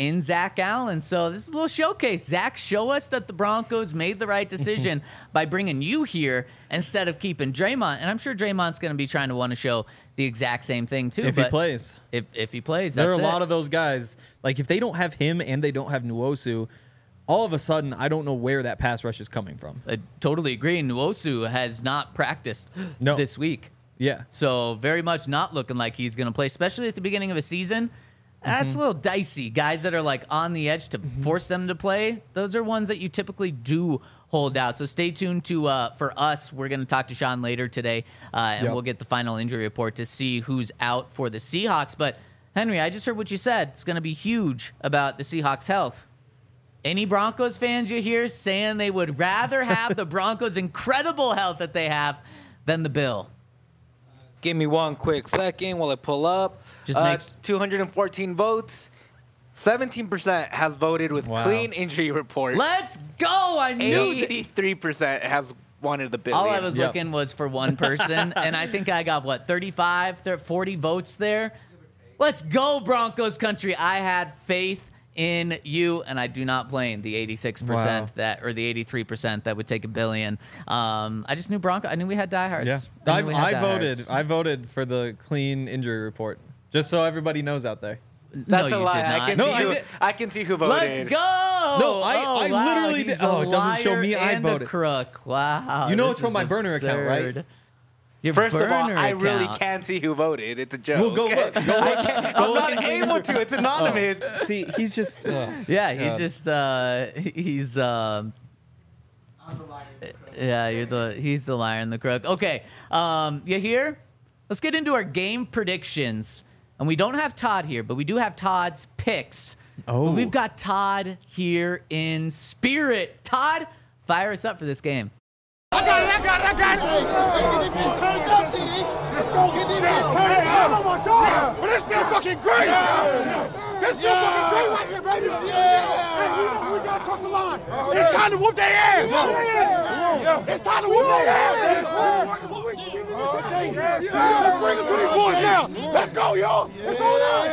in Zach Allen. So this is a little showcase. Zach, show us that the Broncos made the right decision by bringing you here instead of keeping Draymond. And I'm sure Draymond's going to be trying to want to show the exact same thing too. If he plays. If he plays, There are a that's lot it. of those guys. Like, if they don't have him and they don't have Nwosu, all of a sudden, I don't know where that pass rush is coming from. I totally agree. Nwosu has not practiced No. this week. Yeah. So very much not looking like he's going to play, especially at the beginning of a season. That's a little dicey. Guys that are like on the edge to force them to play, those are ones that you typically do hold out. So stay tuned to for us. We're going to talk to Sean later today, and Yep. we'll get the final injury report to see who's out for the Seahawks. But Henry, I just heard what you said. It's going to be huge about the Seahawks' health. Any Broncos fans you hear saying they would rather have the Broncos' incredible health that they have than the Bill? Give me one quick second while I pull up. Just make 214 votes. 17% has voted with Wow. clean injury report. Let's go! I knew that. 83% has wanted the Billy. All I was Yep. looking was for one person, and I think I got, 40 votes there? Let's go, Broncos country. I had faith in you, and I do not blame the 86% Wow. or the 83% that would take $1 billion. I just knew I knew we had diehards. Yeah. I knew we had I voted. diehards. I voted for the clean injury report, just so everybody knows out there. That's no, a you lie. did not. No, I did. I can see who voted. Let's go! No, I wow, literally he's did- oh, a it doesn't show liar me I and a voted. crook. Wow. You know this it's from is my burner account, right? absurd. Your First of all, burner I really account. can't see who voted. It's a joke. Well, go look. Go look. I'm not able to. It's anonymous. See, he's just. Yeah, he's God. just he's yeah, he's the liar and the crook. Okay, you here? Let's get into our game predictions. And we don't have Todd here, but we do have Todd's picks. Oh. But we've got Todd here in spirit. Todd, fire us up for this game. I got it. Hey, get this man turned up, TD. Let's go get this man turned up. Oh, my God. But this feel fucking great. This feel fucking great right here, baby. Hey, we got to cross the line. It's time to whoop their ass. It's time to whoop their ass. Let's bring it to these boys now. Let's go, y'all. It's all out.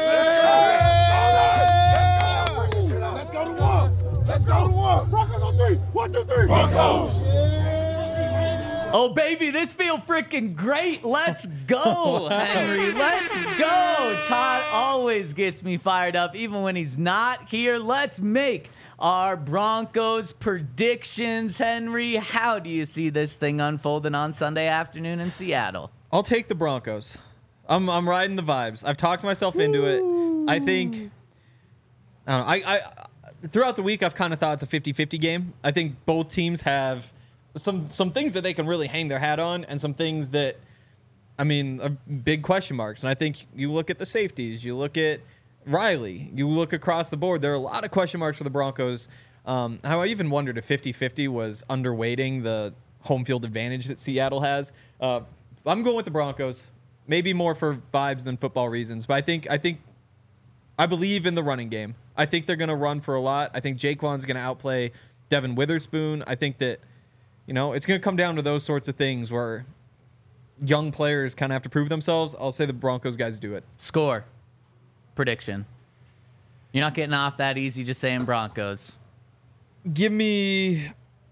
Let's go to one. Let's go to one. Broncos on three. 1, 2, 3. Broncos. Oh, baby, this feel freaking great. Let's go, Henry. Let's go. Todd always gets me fired up, even when he's not here. Let's make our Broncos predictions. Henry, how do you see this thing unfolding on Sunday afternoon in Seattle? I'll take the Broncos. I'm riding the vibes. I've talked myself into it. I think. I don't know. I throughout the week I've kind of thought it's a 50-50 game. I think both teams have some things that they can really hang their hat on, and some things that, I mean, are big question marks. And I think you look at the safeties, you look at Riley, you look across the board, there are a lot of question marks for the Broncos. How I even wondered if 50-50 was underweighting the home field advantage that Seattle has. I'm going with the Broncos, maybe more for vibes than football reasons, but I believe in the running game. I think they're going to run for a lot. I think Jaquan's going to outplay Devin Witherspoon. I think that, it's going to come down to those sorts of things where young players kind of have to prove themselves. I'll say the Broncos guys do it. Score. Prediction. You're not getting off that easy just saying Broncos. Give me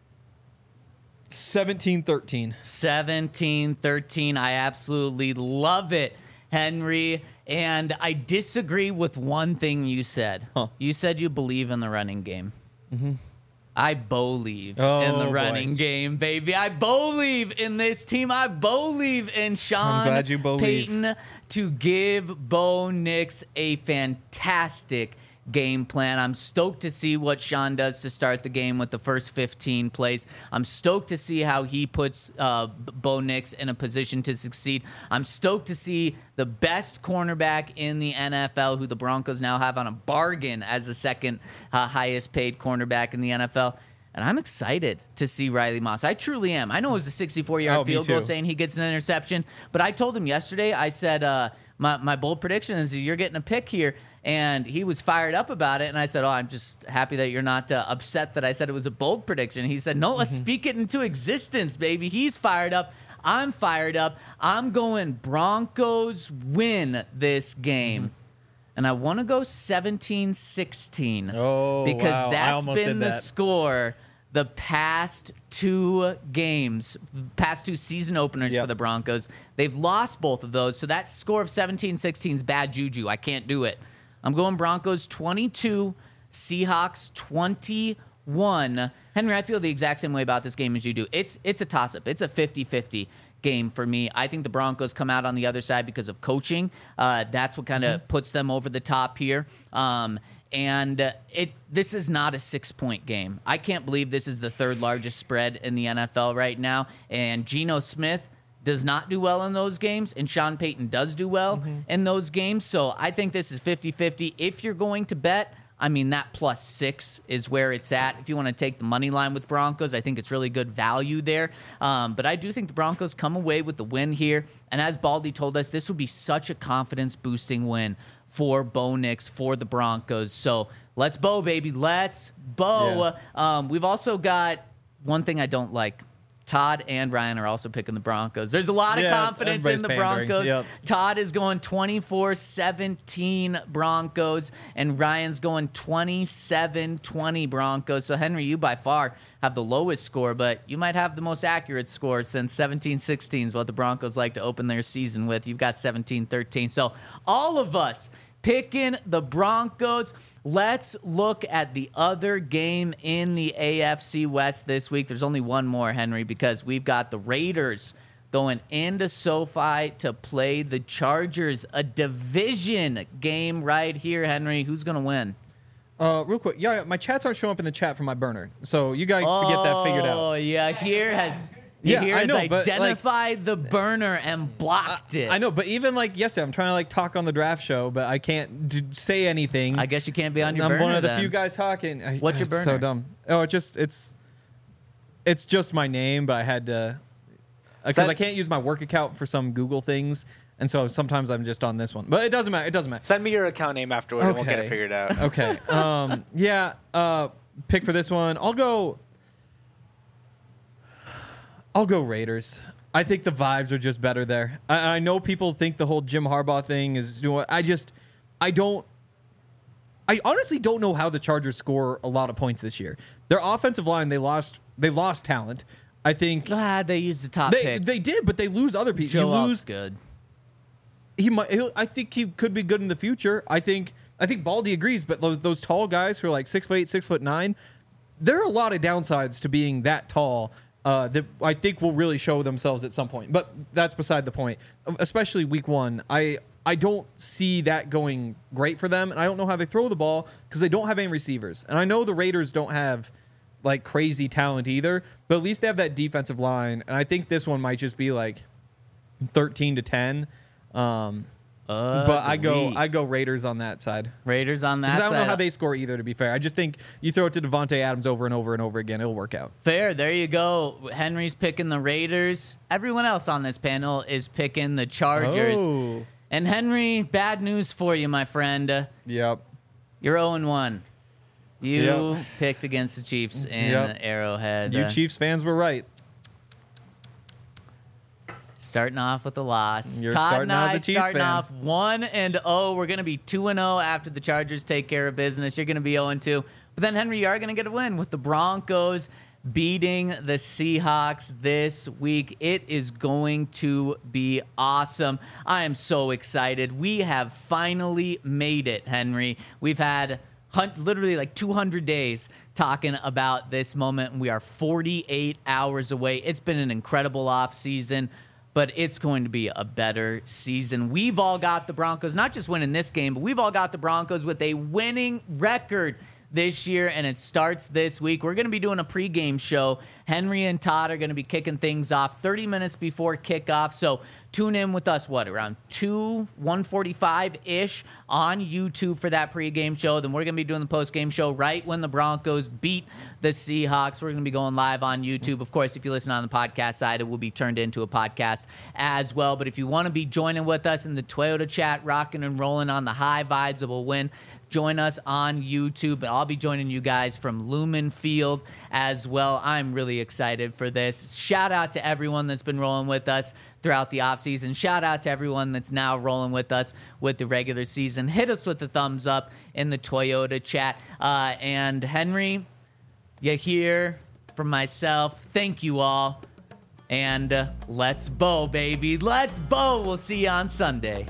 17-13. 17-13. I absolutely love it, Henry. And I disagree with one thing you said. Huh. You said you believe in the running game. Mm-hmm. I believe in Oh, the boy. running game, baby. I believe in this team. I believe in Sean glad you believe. Payton to give Bo Nix a fantastic game plan. I'm stoked to see what Sean does to start the game with the first 15 plays. I'm stoked to see how he puts Bo Nix in a position to succeed. I'm stoked to see the best cornerback in the NFL, who the Broncos now have on a bargain as the second highest paid cornerback in the NFL. And I'm excited to see Riley Moss. I truly am. I know it was a 64-yard Oh, me field goal too. saying he gets an interception, but I told him yesterday, I said, my bold prediction is you're getting a pick here. And he was fired up about it. And I said, I'm just happy that you're not upset that I said it was a bold prediction. He said, no, let's speak it into existence, baby. He's fired up. I'm fired up. I'm going Broncos win this game. and I want to go 17-16. Oh, because wow. I that's almost been did the that. score the past 2 games, past 2 season openers Yep. for the Broncos. They've lost both of those, so that score of 17-16 is bad juju. I can't do it. I'm going Broncos 22, Seahawks 21. Henry, I feel the exact same way about this game as you do. It's a toss-up. It's a 50-50 game for me. I think the Broncos come out on the other side because of coaching. That's what kind of puts them over the top here. This is not a 6-point game. I can't believe this is the 3rd largest spread in the NFL right now. And Geno Smith does not do well in those games, and Sean Payton does do well in those games. So I think this is 50-50. If you're going to bet, I mean, that +6 is where it's at. If you want to take the money line with Broncos, I think it's really good value there. But I do think the Broncos come away with the win here. And as Baldy told us, this would be such a confidence-boosting win for Bo Nix, for the Broncos. So let's Bo, baby. Let's Bo. We've also got one thing I don't like. Todd and Ryan are also picking the Broncos. There's a lot of confidence in the pandering. Broncos. Yep. Todd is going 24-17 Broncos, and Ryan's going 27-20 Broncos. So, Henry, you by far have the lowest score, but you might have the most accurate score since 17-16 is what the Broncos like to open their season with. You've got 17-13. So, all of us picking the Broncos. Let's look at the other game in the AFC West this week. There's only one more, Henry, because we've got the Raiders going into SoFi to play the Chargers, a division game right here, Henry. Who's going to win? Real quick, my chats aren't showing up in the chat from my burner, so you guys get that figured out. Oh, yeah, here has I know, but, identified the burner and blocked it. I know, but even yesterday, I'm trying to talk on the draft show, but I can't say anything. I guess you can't be on your I'm burner. one of the then. few guys talking. What's your It's so burner? dumb. Oh, it's just my name, but I had to because I can't use my work account for some Google things, and so sometimes I'm just on this one. But it doesn't matter. It doesn't matter. Send me your account name afterward, and we'll get it figured out. Okay. Pick for this one. I'll go Raiders. I think the vibes are just better there. I know people think the whole Jim Harbaugh thing is doing. I honestly don't know how the Chargers score a lot of points this year. Their offensive line, they lost talent. I think They used the top pick. they did, but they lose other people. Joe You lose. good. I think he could be good in the future. I think Baldy agrees, but those tall guys who are 6'8", 6'9", there are a lot of downsides to being that tall. That I think will really show themselves at some point. But that's beside the point. Especially week 1. I don't see that going great for them, and I don't know how they throw the ball because they don't have any receivers. And I know the Raiders don't have crazy talent either, but at least they have that defensive line. And I think this one might just be 13-10. But I go Raiders on that side. Raiders on that Because side. I don't know how they score either, to be fair. I just think you throw it to Devontae Adams over and over and over again, it'll work out. Fair. There you go. Henry's picking the Raiders. Everyone else on this panel is picking the Chargers. Oh. And Henry, bad news for you, my friend. Yep. You're 0-1. You Yep. picked against the Chiefs in Yep. Arrowhead. You Chiefs fans were right. Starting off with a loss. You're Todd starting and out I as a Chiefs starting fan. off 1-0. We're going to be 2-0 after the Chargers take care of business. You're going to be 0-2. But then, Henry, you are going to get a win with the Broncos beating the Seahawks this week. It is going to be awesome. I am so excited. We have finally made it, Henry. We've had literally 200 days talking about this moment, and we are 48 hours away. It's been an incredible offseason, but it's going to be a better season. We've all got the Broncos, not just winning this game, but we've all got the Broncos with a winning record this year, and it starts this week. We're going to be doing a pregame show. Henry and Todd are going to be kicking things off 30 minutes before kickoff, so tune in with us, around 1:45-ish on YouTube for that pregame show. Then we're going to be doing the postgame show right when the Broncos beat the Seahawks. We're going to be going live on YouTube. Of course, if you listen on the podcast side, it will be turned into a podcast as well. But if you want to be joining with us in the Toyota chat, rocking and rolling on the high vibes that will win, join us on YouTube. I'll be joining you guys from Lumen Field as well. I'm really excited for this. Shout out to everyone that's been rolling with us throughout the offseason. Shout out to everyone that's now rolling with us with the regular season. Hit us with the thumbs up in the Toyota chat. And Henry, you hear from myself. Thank you all. And let's bow, baby. Let's bow. We'll see you on Sunday.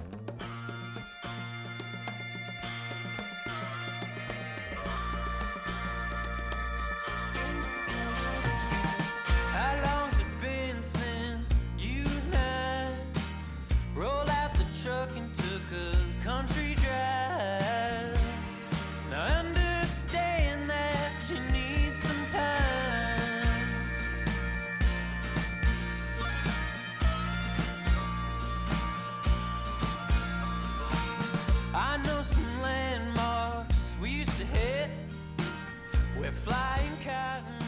How long's it been since you and I rolled out the truck and took a country drive? Now I understand that you need some time. I know some landmarks we used to hit. We're flying cotton